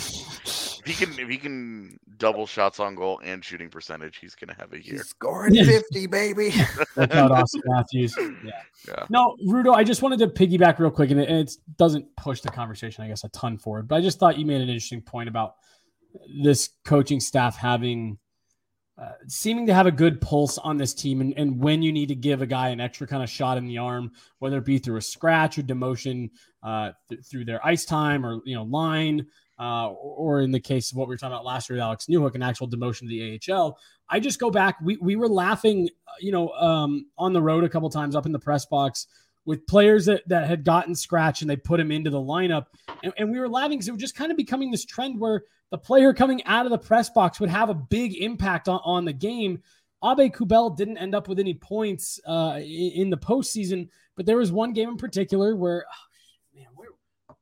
If he can, if he can double shots on goal and shooting percentage, he's going to have a year. He's scoring fifty, baby. That's not Austin Matthews. Yeah. yeah. No, Rudo, I just wanted to piggyback real quick, and it, it doesn't push the conversation, I guess, a ton forward. But I just thought you made an interesting point about this coaching staff having uh, seeming to have a good pulse on this team, and, and when you need to give a guy an extra kind of shot in the arm, whether it be through a scratch or demotion, uh, th- through their ice time or you know line. Uh, or in the case of what we were talking about last year with Alex Newhook, an actual demotion to the A H L. I just go back. We we were laughing, you know, um, on the road a couple times up in the press box with players that, that had gotten scratched and they put him into the lineup. And, and we were laughing because it was just kind of becoming this trend where the player coming out of the press box would have a big impact on, on the game. Abe Kubel didn't end up with any points uh, in, in the postseason, but there was one game in particular where, oh, man, where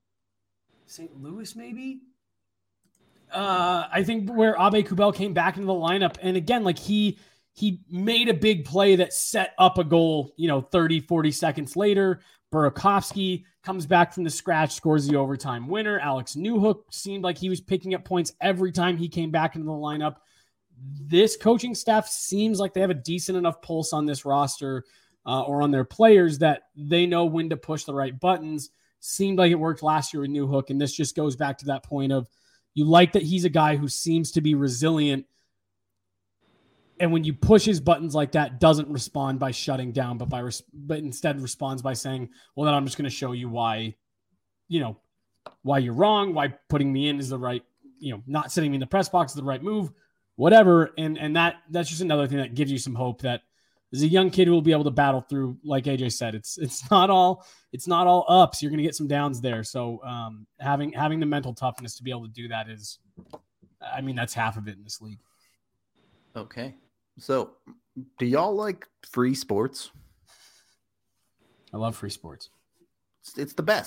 Saint Louis maybe? Uh, I think where Abe Kubel came back into the lineup. And again, like he he made a big play that set up a goal, you know, thirty, forty seconds later. Burakovsky comes back from the scratch, scores the overtime winner. Alex Newhook seemed like he was picking up points every time he came back into the lineup. This coaching staff seems like they have a decent enough pulse on this roster uh, or on their players that they know when to push the right buttons. Seemed like it worked last year with Newhook, and this just goes back to that point of you like that he's a guy who seems to be resilient, and when you push his buttons like that, doesn't respond by shutting down, but by res- but instead responds by saying, "Well, then I'm just going to show you why, you know, why you're wrong, why putting me in is the right, you know, not sitting me in the press box is the right move, whatever." And and that that's just another thing that gives you some hope that there's a young kid who will be able to battle through. Like A J said, it's it's not all it's not all ups. You're going to get some downs there. So um, having having the mental toughness to be able to do that is, I mean, that's half of it in this league. Okay, so do y'all like free sports? I love free sports. It's, it's the best.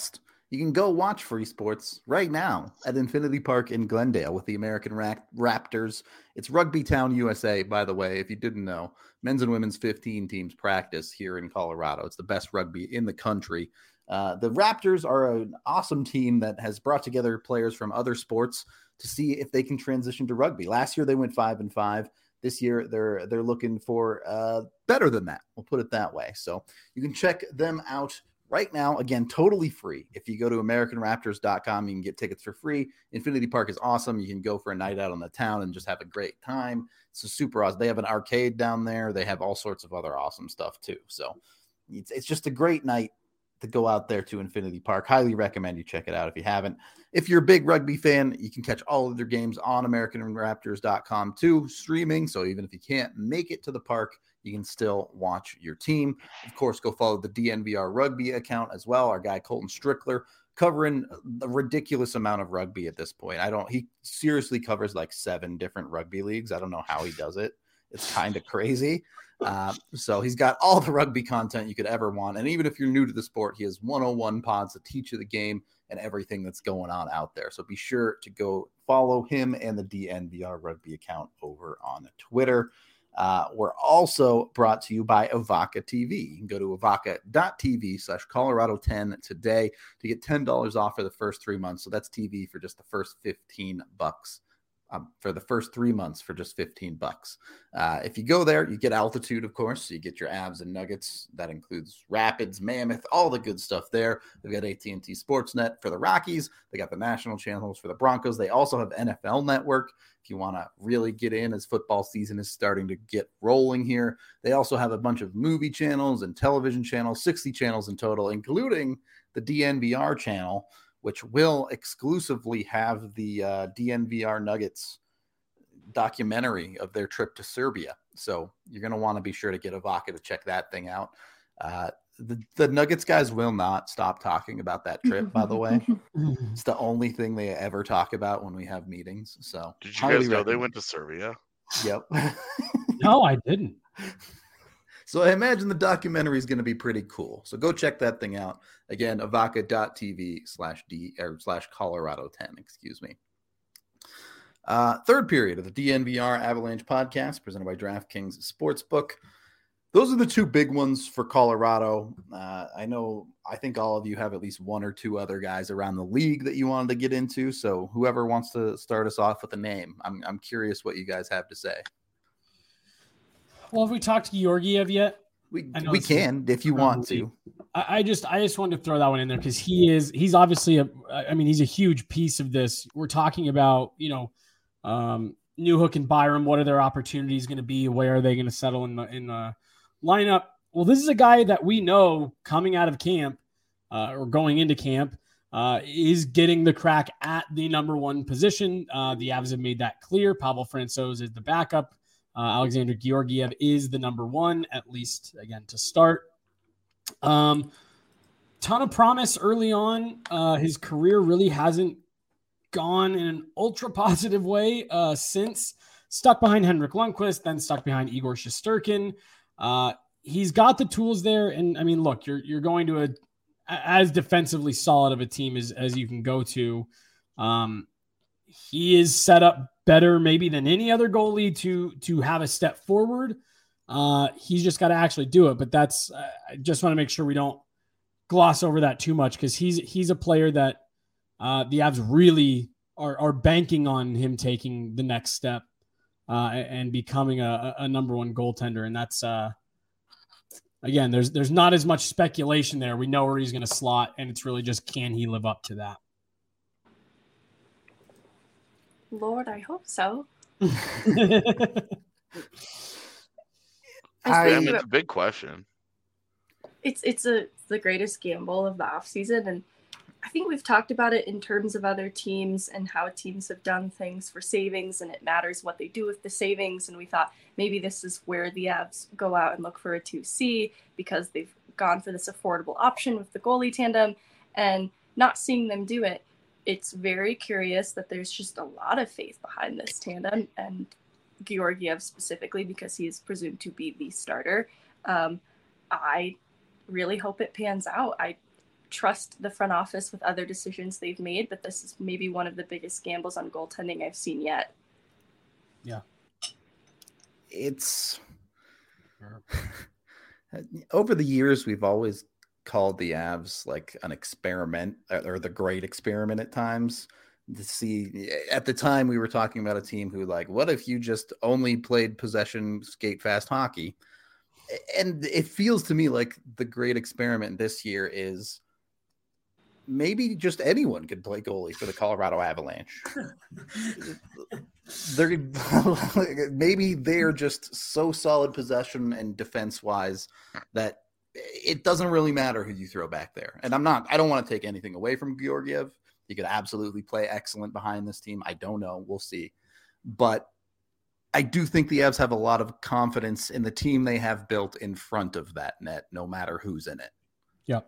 You can go watch free sports right now at Infinity Park in Glendale with the American Ra- Raptors. It's Rugby Town, U S A, by the way, if you didn't know. Men's and women's fifteen teams practice here in Colorado. It's the best rugby in the country. Uh, the Raptors are an awesome team that has brought together players from other sports to see if they can transition to rugby. Last year they went five and five. This year they're they're looking for uh, better than that. We'll put it that way. So you can check them out right now. Again, totally free. If you go to American Raptors dot com, you can get tickets for free. Infinity Park is awesome. You can go for a night out on the town and just have a great time. It's a super awesome. They have an arcade down there. They have all sorts of other awesome stuff too. So it's, it's just a great night to go out there to Infinity Park. Highly recommend you check it out if you haven't. If you're a big rugby fan, you can catch all of their games on American Raptors dot com too, streaming. So even if you can't make it to the park, you can still watch your team. Of course, go follow the D N V R Rugby account as well. Our guy Colton Strickler covering a ridiculous amount of rugby at this point. I don't, he seriously covers like seven different rugby leagues. I don't know how he does it. It's kind of crazy. Uh, so he's got all the rugby content you could ever want. And even if you're new to the sport, he has one oh one pods to teach you the game and everything that's going on out there. So be sure to go follow him and the D N V R Rugby account over on Twitter. Uh, we're also brought to you by Avaka T V. You can go to avaka dot t v slash Colorado ten today to get ten dollars off for the first three months. So that's T V for just the first fifteen bucks. Um, for the first three months for just fifteen bucks. Uh, if you go there, you get altitude, of course. So you get your abs and nuggets. That includes Rapids, Mammoth, all the good stuff there. They've got A T and T Sportsnet for the Rockies. They got the national channels for the Broncos. They also have N F L Network if you want to really get in as football season is starting to get rolling here. They also have a bunch of movie channels and television channels, sixty channels in total, including the D N V R channel, which will exclusively have the uh, D N V R Nuggets documentary of their trip to Serbia. So you're going to want to be sure to get Avaka to check that thing out. Uh, the, the Nuggets guys will not stop talking about that trip, by the way. It's the only thing they ever talk about when we have meetings. So did you guys know they went to Serbia? Yep. No, I didn't. So I imagine the documentary is going to be pretty cool. So go check that thing out. Again, avaka dot t v slash D or slash Colorado ten, excuse me. Uh, third period of the D N V R Avalanche podcast presented by DraftKings Sportsbook. Those are the two big ones for Colorado. Uh, I know, I think all of you have at least one or two other guys around the league that you wanted to get into. So whoever wants to start us off with a name, I'm I'm curious what you guys have to say. Well, have we talked to Georgiev yet? We we can if you want to. I, I just I just wanted to throw that one in there because he is he's obviously a I mean he's a huge piece of this. We're talking about you know um, Newhook and Byram. What are their opportunities going to be? Where are they going to settle in the in the lineup? Well, this is a guy that we know coming out of camp uh, or going into camp uh, is getting the crack at the number one position. Uh, the Avs have made that clear. Pavel Francouz is the backup. Uh, Alexander Georgiev is the number one, at least, again, to start. Um, ton of promise early on. Uh, his career really hasn't gone in an ultra positive way uh, since. Stuck behind Henrik Lundqvist, then stuck behind Igor Shesterkin. Uh, he's got the tools there. And, I mean, look, you're you're going to a as defensively solid of a team as, as you can go to. Um, he is set up better maybe than any other goalie to to have a step forward. Uh, he's just got to actually do it. But that's uh, I just want to make sure we don't gloss over that too much because he's he's a player that uh, the Avs really are are banking on him taking the next step uh, and becoming a, a number one goaltender. And that's uh, again, there's there's not as much speculation there. We know where he's going to slot, and it's really just can he live up to that. Lord, I hope so. I, I mean, it's a big question. It's it's a it's the greatest gamble of the offseason, and I think we've talked about it in terms of other teams and how teams have done things for savings, and it matters what they do with the savings. And we thought maybe this is where the Avs go out and look for a two C because they've gone for this affordable option with the goalie tandem, and not seeing them do it. It's very curious that there's just a lot of faith behind this tandem and Georgiev specifically because he is presumed to be the starter. Um, I really hope it pans out. I trust the front office with other decisions they've made, but this is maybe one of the biggest gambles on goaltending I've seen yet. Yeah. It's over the years, we've always called the Avs like an experiment or the great experiment at times. To see, at the time we were talking about a team who, like, what if you just only played possession, skate fast hockey? And it feels to me like the great experiment this year is maybe just anyone could play goalie for the Colorado Avalanche. They're maybe they're just so solid possession and defense wise that it doesn't really matter who you throw back there. And I'm not, I don't want to take anything away from Georgiev. He could absolutely play excellent behind this team. I don't know. We'll see. But I do think the Avs have a lot of confidence in the team they have built in front of that net, no matter who's in it. Yeah.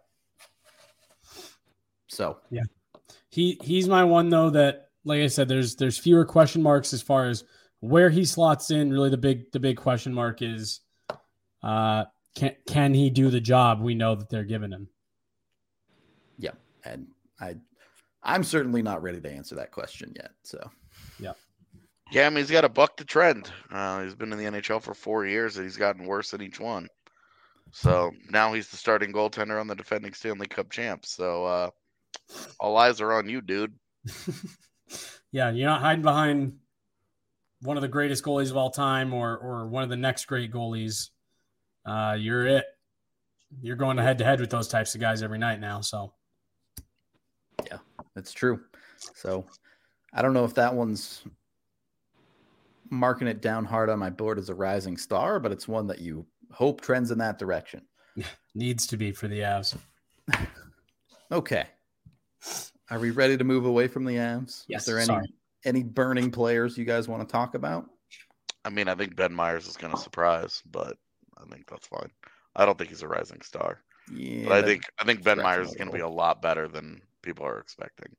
So yeah, he he's my one though. That, like I said, there's there's fewer question marks as far as where he slots in. Really, the big the big question mark is, uh, can can he do the job we know that they're giving him? Yeah, and I. I'm certainly not ready to answer that question yet. So, yeah. Yeah, I mean, he's got to buck the trend. Uh, he's been in the N H L for four years, and he's gotten worse in each one. So now he's the starting goaltender on the defending Stanley Cup champs. So uh, all eyes are on you, dude. Yeah, you're not hiding behind one of the greatest goalies of all time or or one of the next great goalies. Uh, you're it. You're going head to head with those types of guys every night now. So. Yeah, that's true. So I don't know if that one's marking it down hard on my board as a rising star, but it's one that you hope trends in that direction. Needs to be for the Avs. Okay. Are we ready to move away from the Avs? Yes. Is there any, sorry. any burning players you guys want to talk about? I mean, I think Ben Myers is going to surprise, but I think that's fine. I don't think he's a rising star. Yeah, but I think I think Ben Myers is notable. going to be a lot better than people are expecting.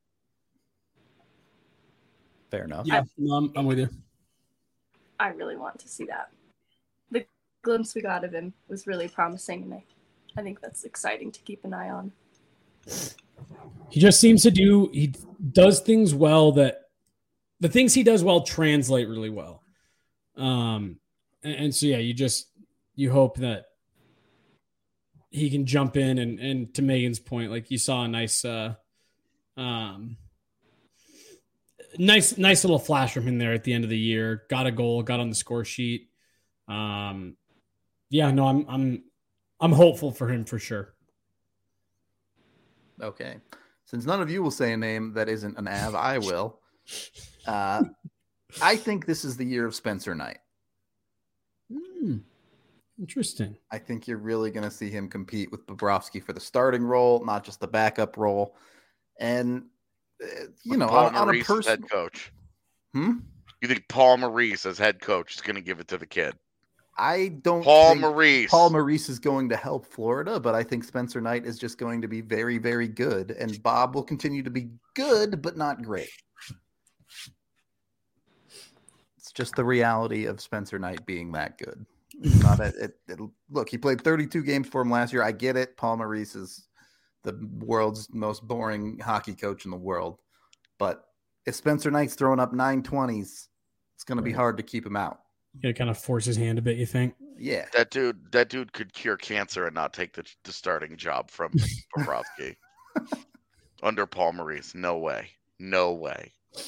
Fair enough. Yeah, no, I'm, I'm with you. I really want to see that. The glimpse we got of him was really promising, and I, I think that's exciting to keep an eye on. He just seems to do, he does things well that the things he does well translate really well. Um, and, and so, yeah, you just, you hope that he can jump in and, and to Megan's point, like you saw a nice, uh, um, nice, nice little flash from him there at the end of the year, got a goal, got on the score sheet. Um, yeah, no, I'm, I'm, I'm hopeful for him for sure. Okay. Since none of you will say a name that isn't an Av, I will. Uh, I think this is the year of Spencer Knight. Hmm. Interesting. I think you're really going to see him compete with Bobrovsky for the starting role, not just the backup role. And, uh, you With know, Paul on, on a Maurice as person, head coach. Hmm? You think Paul Maurice as head coach is going to give it to the kid? I don't Paul think Maurice. Paul Maurice is going to help Florida, but I think Spencer Knight is just going to be very, very good. And Bob will continue to be good, but not great. It's just the reality of Spencer Knight being that good. It's not a, it, it, look, he played thirty-two games for him last year. I get it. Paul Maurice is the world's most boring hockey coach in the world. But if Spencer Knight's throwing up nine twenties, it's going to be hard to keep him out. Yeah, kind of force his hand a bit, you think? Yeah. That dude, that dude could cure cancer and not take the, the starting job from Bobrovsky. Under Paul Maurice. No way. No way.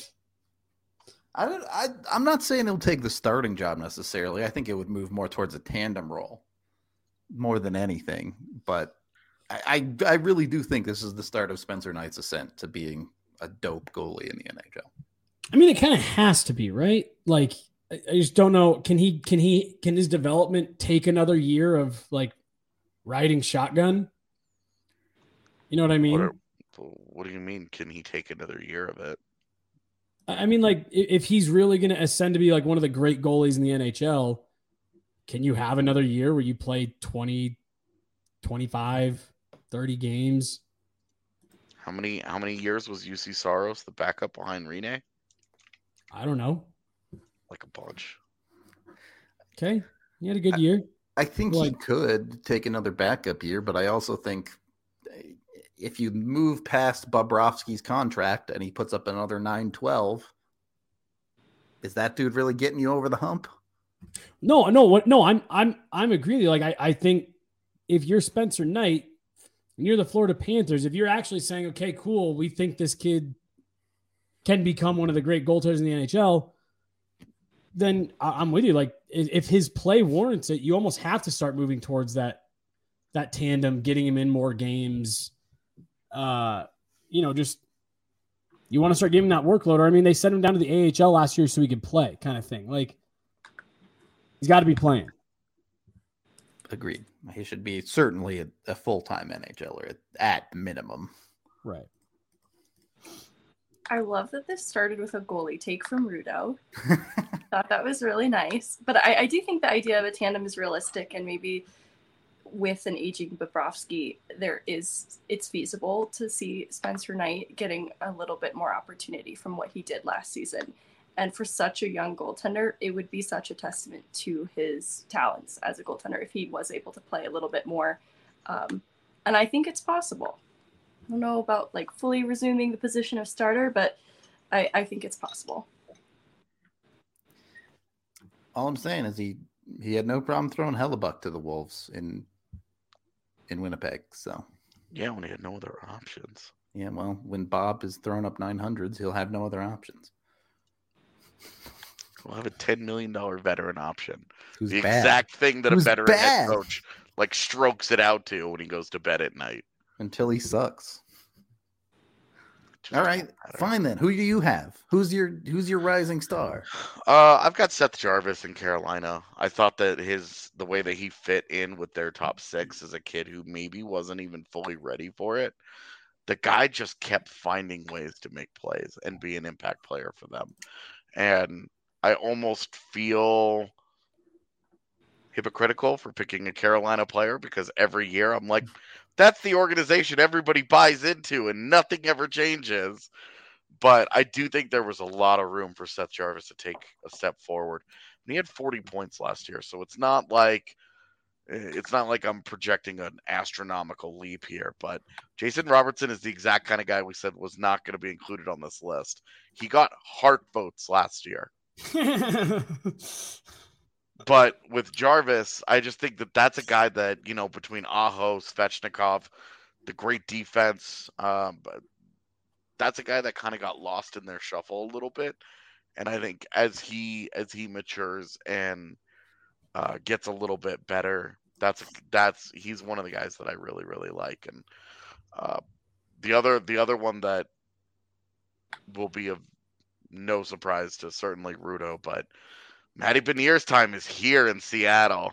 I don't, I, I'm not saying he'll take the starting job necessarily. I think it would move more towards a tandem role more than anything. But I, I, I really do think this is the start of Spencer Knight's ascent to being a dope goalie in the N H L. I mean, it kind of has to be, right? Like, I I just don't know. Can he, can he, can his development take another year of like riding shotgun? You know what I mean? What, are, what do you mean? Can he take another year of it? I mean, like, if he's really going to ascend to be like one of the great goalies in the N H L, can you have another year where you play twenty, twenty-five, thirty games? How many how many years was U C Saros the backup behind Rene? I don't know. Like a bunch. Okay. He had a good year. I think Like- he could take another backup year, but I also think if you move past Bobrovsky's contract and he puts up another nine twelve, is that dude really getting you over the hump? No, no, what? No, I'm, I'm, I'm agreeing. Like, I, I think if you're Spencer Knight and you're the Florida Panthers, if you're actually saying, okay, cool, we think this kid can become one of the great goaltenders in the N H L, then I'm with you. Like, if his play warrants it, you almost have to start moving towards that, that tandem, getting him in more games. Uh, you know, just, you want to start giving that workload. Or, I mean, they sent him down to the A H L last year so he could play, kind of thing. Like, he's got to be playing. Agreed. He should be certainly a, a full-time N H L er at, at minimum. Right. I love that this started with a goalie take from Rudo. Thought that was really nice. But I, I do think the idea of a tandem is realistic, and maybe with an aging Bobrovsky, there is it's feasible to see Spencer Knight getting a little bit more opportunity from what he did last season. And for such a young goaltender, it would be such a testament to his talents as a goaltender if he was able to play a little bit more. Um, and I think it's possible. I don't know about like fully resuming the position of starter, but I, I think it's possible. All I'm saying is he he had no problem throwing Hellebuck to the Wolves in in Winnipeg. So yeah, when he had no other options. Yeah, well, when Bob is throwing up nine hundreds, he'll have no other options. We'll have a ten million dollars veteran option. Who's the bad. exact thing that Who's a veteran bad. head coach like strokes it out to when he goes to bed at night. Until he sucks. Just All right, fine then. Who do you have? Who's your who's your rising star? Uh, I've got Seth Jarvis in Carolina. I thought that his the way that he fit in with their top six as a kid who maybe wasn't even fully ready for it. The guy just kept finding ways to make plays and be an impact player for them. And I almost feel hypocritical for picking a Carolina player because every year I'm like, that's the organization everybody buys into and nothing ever changes. But I do think there was a lot of room for Seth Jarvis to take a step forward. And he had forty points last year, so it's not like it's not like I'm projecting an astronomical leap here. But Jason Robertson is the exact kind of guy we said was not going to be included on this list. He got heart votes last year. But with Jarvis, I just think that that's a guy that, you know, between Aho, Svechnikov, the great defense, um, but that's a guy that kind of got lost in their shuffle a little bit. And I think as he as he matures and uh, gets a little bit better, that's that's he's one of the guys that I really really like. And uh, the other the other one that will be of no surprise to certainly Rudo, but Matty Benier's time is here in Seattle.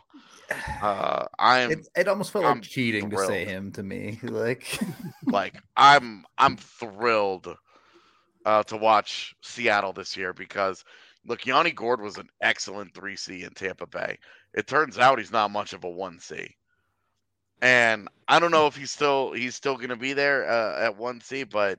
Uh, I'm. It, it almost felt I'm like cheating thrilled. to say him to me. Like, like I'm. I'm thrilled uh, to watch Seattle this year because look, Yanni Gourde was an excellent three C in Tampa Bay. It turns out he's not much of a one C, and I don't know if he's still he's still going to be there uh, at one C, but.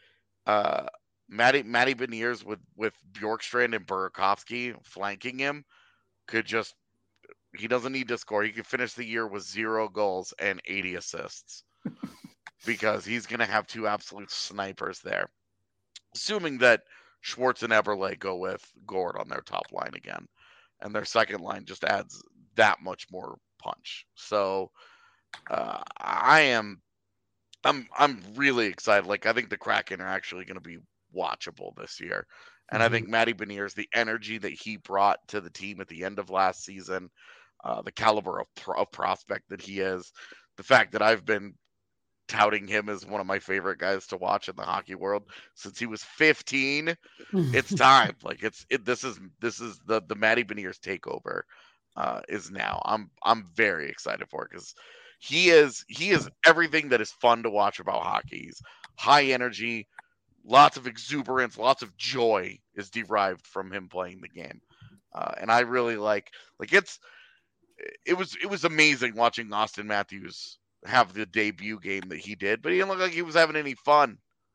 Uh, Matty Matty Beniers with with Bjorkstrand and Burakovsky flanking him could just he doesn't need to score. He could finish the year with zero goals and eighty assists because he's going to have two absolute snipers there. Assuming that Schwartz and Eberle go with Gourde on their top line again, and their second line just adds that much more punch. So uh, I am I'm I'm really excited. Like I think the Kraken are actually going to be watchable this year. And mm-hmm. I think Matty Beniers, the energy that he brought to the team at the end of last season, uh, the caliber of, pro- of prospect that he is, the fact that I've been touting him as one of my favorite guys to watch in the hockey world since he was fifteen. It's time. Like it's it. This is this is the the Matty Beniers takeover uh, is now. I'm I'm very excited for it because he is he is everything that is fun to watch about hockey. He's high energy. Lots of exuberance, lots of joy is derived from him playing the game, uh, and I really like. Like it's, it was it was amazing watching Austin Matthews have the debut game that he did, but he didn't look like he was having any fun.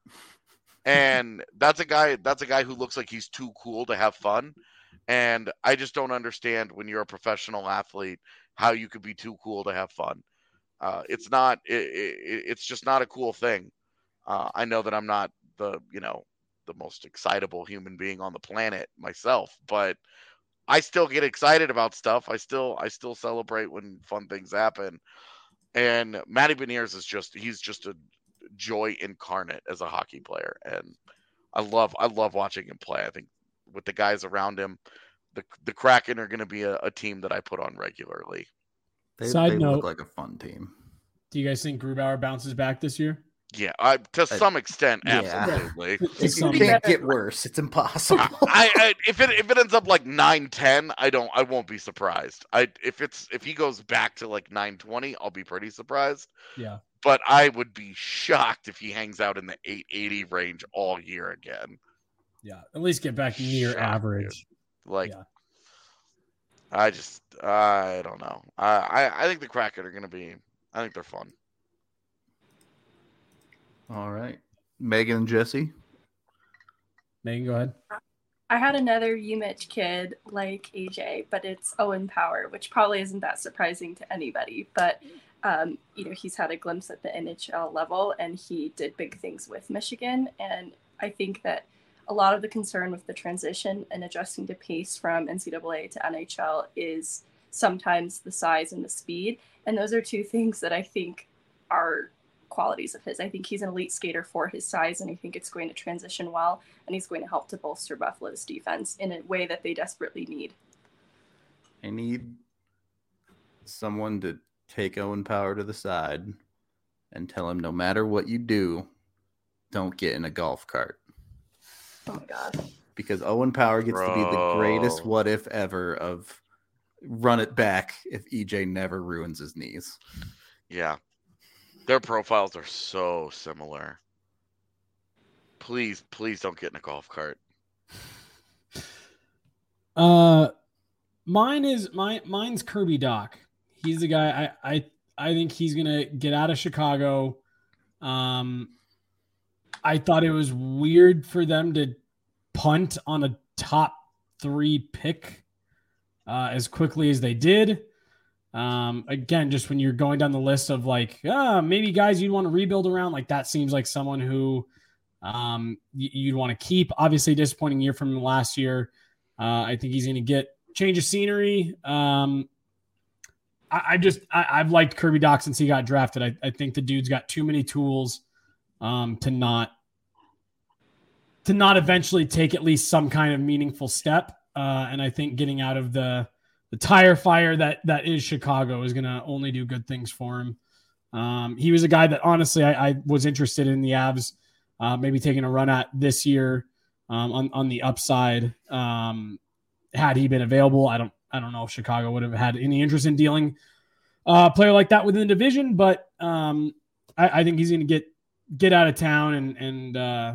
And that's a guy. That's a guy who looks like he's too cool to have fun, and I just don't understand when you're a professional athlete how you could be too cool to have fun. Uh, it's not. It, it, it's just not a cool thing. Uh, I know that I'm not the you know the most excitable human being on the planet myself, but I still get excited about stuff. I still I still celebrate when fun things happen. And Matty Beniers is just he's just a joy incarnate as a hockey player, and I love I love watching him play. I think with the guys around him, the the Kraken are going to be a, a team that I put on regularly. They, Side they note, look like a fun team. Do you guys think Grubauer bounces back this year? Yeah, I, to some extent, yeah. absolutely. It, it can't get worse. It's impossible. I, I if it if it ends up like nine ten, I don't I won't be surprised. I if it's if he goes back to like nine twenty, I'll be pretty surprised. Yeah. But I would be shocked if he hangs out in the eight eighty range all year again. Yeah, at least get back near Shocked, average. dude. Like, yeah. I just I don't know. I, I I think the Kraken are gonna be. I think they're fun. All right, Megan and Jesse. Megan, go ahead. I had another U M I T kid like A J, but it's Owen Power, which probably isn't that surprising to anybody. But um, you know, he's had a glimpse at the N H L level, and he did big things with Michigan. And I think that a lot of the concern with the transition and adjusting to pace from N C double A to N H L is sometimes the size and the speed, and those are two things that I think are qualities of his. I think he's an elite skater for his size, and I think it's going to transition well, and he's going to help to bolster Buffalo's defense in a way that they desperately need. I need someone to take Owen Power to the side and tell him no matter what you do, don't get in a golf cart. Oh my God. Because Owen Power gets Bro. to be the greatest what if ever of run it back if E J never ruins his knees. Yeah. Their profiles are so similar. Please, please don't get in a golf cart. Uh, mine is my mine's Kirby Doc. He's the guy. I I I think he's gonna get out of Chicago. Um, I thought it was weird for them to punt on a top three pick uh, as quickly as they did. Um, again, just when you're going down the list of like, ah, maybe guys you'd want to rebuild around, like that seems like someone who um, y- you'd want to keep. Obviously, disappointing year from last year. Uh, I think he's going to get change of scenery. Um, I, I just I, I've liked Kirby Doc since he got drafted. I, I think the dude's got too many tools um, to not to not eventually take at least some kind of meaningful step. Uh, and I think getting out of the the tire fire that that is Chicago is going to only do good things for him. Um, he was a guy that honestly I, I was interested in the Avs, uh, maybe taking a run at this year um, on on the upside. Um, had he been available, I don't I don't know if Chicago would have had any interest in dealing uh, a player like that within the division, but um, I, I think he's going to get get out of town and and uh,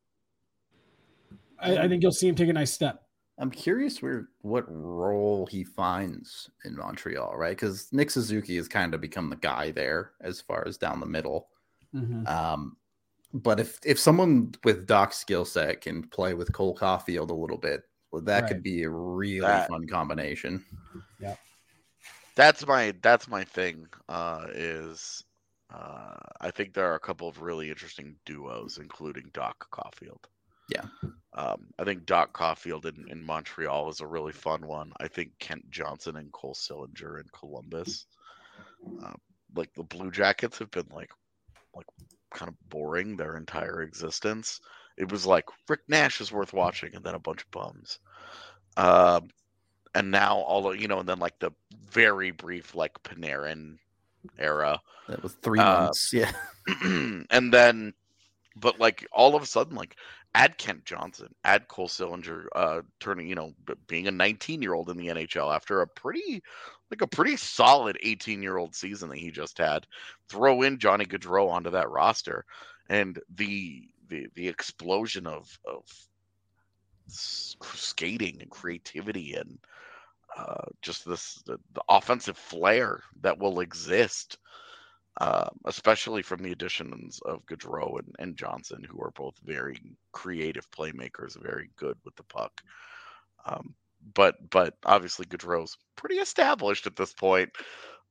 I, I think you'll see him take a nice step. I'm curious where what role he finds in Montreal, right? Because Nick Suzuki has kind of become the guy there as far as down the middle. Mm-hmm. Um, but if if someone with Doc's skill set can play with Cole Caulfield a little bit, well, that Right. could be a really That- fun combination. Yeah. That's my that's my thing. Uh, is uh, I think there are a couple of really interesting duos, including Doc Caulfield. Yeah. Um, I think Doc Caulfield in, in Montreal is a really fun one. I think Kent Johnson and Cole Sillinger in Columbus. Uh, like the Blue Jackets have been like like kind of boring their entire existence. It was like Rick Nash is worth watching, and then a bunch of bums. Um, and now all of, you know, and then like the very brief like Panarin era. That was three Uh, months. Yeah. And then, but like all of a sudden, like add Kent Johnson, add Cole Sillinger, uh, turning, you know, b- being a nineteen year old in the N H L after a pretty, like a pretty solid eighteen year old season that he just had. Throw in Johnny Gaudreau onto that roster, and the the the explosion of of s- skating and creativity and uh, just this the, the offensive flair that will exist. Uh, especially from the additions of Gaudreau and, and Johnson, who are both very creative playmakers, very good with the puck. Um, but but obviously Gaudreau's pretty established at this point.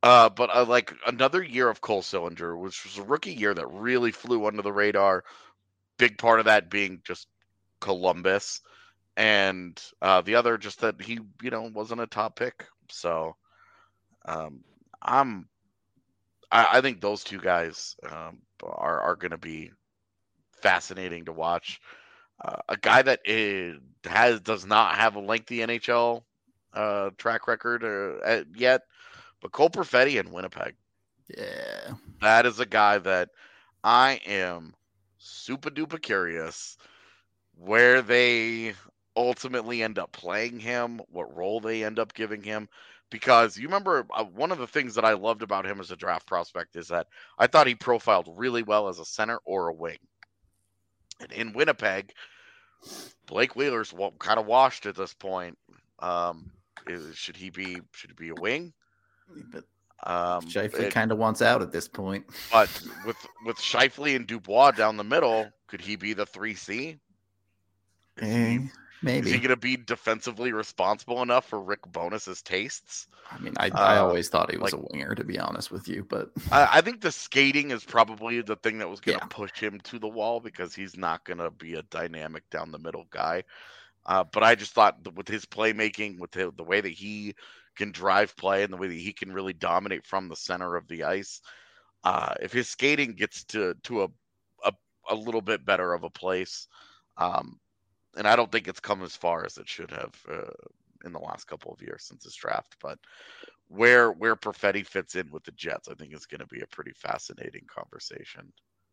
Uh, but uh, like another year of Cole Sillinger, which was a rookie year that really flew under the radar. Big part of that being just Columbus, and uh, the other just that he, you know, wasn't a top pick. So um, I'm, I, I think those two guys um, are are going to be fascinating to watch. Uh, a guy that is, has does not have a lengthy N H L uh, track record uh, yet, but Cole Perfetti in Winnipeg. Yeah, that is a guy that I am super duper curious where they ultimately end up playing him, what role they end up giving him. Because you remember uh, one of the things that I loved about him as a draft prospect is that I thought he profiled really well as a center or a wing. And in Winnipeg, Blake Wheeler's kind of washed at this point. Um, is, should he be should he be a wing? But um, Scheifele kind of wants out at this point. But with with Scheifele and Dubois down the middle, could he be the three C? Is eh, he, maybe. Is he going to be defensively responsible enough for Rick Bonus's tastes? I mean, I, uh, I always thought he was like, a winger, to be honest with you. But I, I think the skating is probably the thing that was going to yeah. push him to the wall because he's not going to be a dynamic down the middle guy. Uh, but I just thought that with his playmaking, with the, the way that he can drive play and the way that he can really dominate from the center of the ice, uh, if his skating gets to to a, a a little bit better of a place, um, and I don't think it's come as far as it should have uh, in the last couple of years since his draft, but where where Perfetti fits in with the Jets, I think is going to be a pretty fascinating conversation.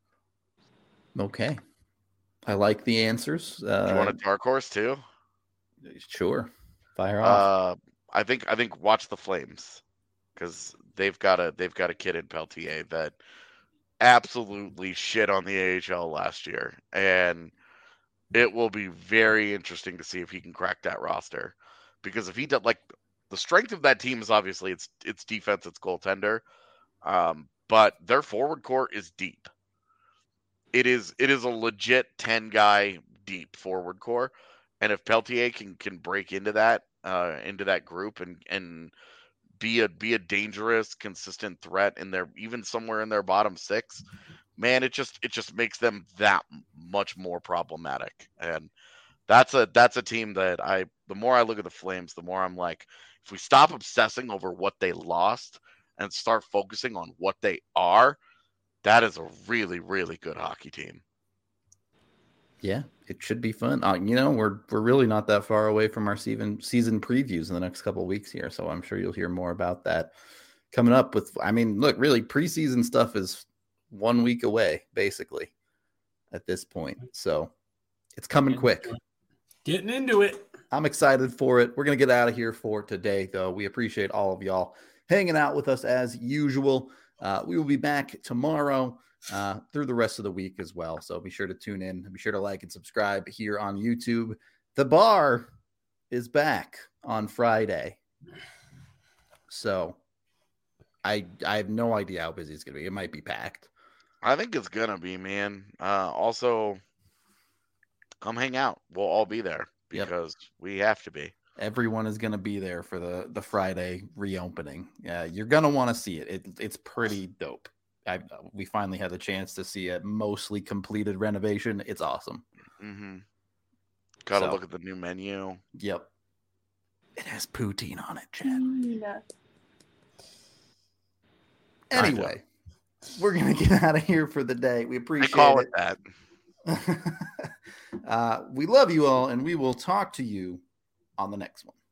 Okay. I like the answers. Uh, Do you want a dark horse too? Sure. Fire off. Uh, I think I think watch the Flames because they've got a they've got a kid in Peltier that absolutely shit on the A H L last year, and it will be very interesting to see if he can crack that roster. Because if he does, like, the strength of that team is obviously it's it's defense, it's goaltender, um, but their forward core is deep. It is it is a legit ten guy deep forward core, and if Peltier can can break into that uh, into that group and and be a be a dangerous, consistent threat in their even somewhere in their bottom six, man, it just it just makes them that much more problematic. And that's a that's a team that I the more I look at the Flames, the more I'm like, if we stop obsessing over what they lost and start focusing on what they are, that is a really, really good hockey team. Yeah, it should be fun. Uh, you know, we're we're really not that far away from our season season previews in the next couple of weeks here, so I'm sure you'll hear more about that coming up. With, I mean, look, really, preseason stuff is one week away, basically, at this point. So it's coming quick. Getting into it. I'm excited for it. We're gonna get out of here for today, though. We appreciate all of y'all hanging out with us as usual. Uh, we will be back tomorrow uh, through the rest of the week as well. So be sure to tune in. Be sure to like and subscribe here on YouTube. The bar is back on Friday. So I I have no idea how busy it's going to be. It might be packed. I think it's going to be, man. Uh, also, come hang out. We'll all be there because yep. we have to be. Everyone is going to be there for the, the Friday reopening. Yeah, you're going to want to see it. it. It's pretty dope. I, we finally had the chance to see a mostly completed renovation. It's awesome. Mm-hmm. Got to so, look at the new menu. Yep. It has poutine on it, Chad. Yeah. Anyway, we're going to get out of here for the day. We appreciate I call it. it that. uh, we love you all, and we will talk to you on the next one.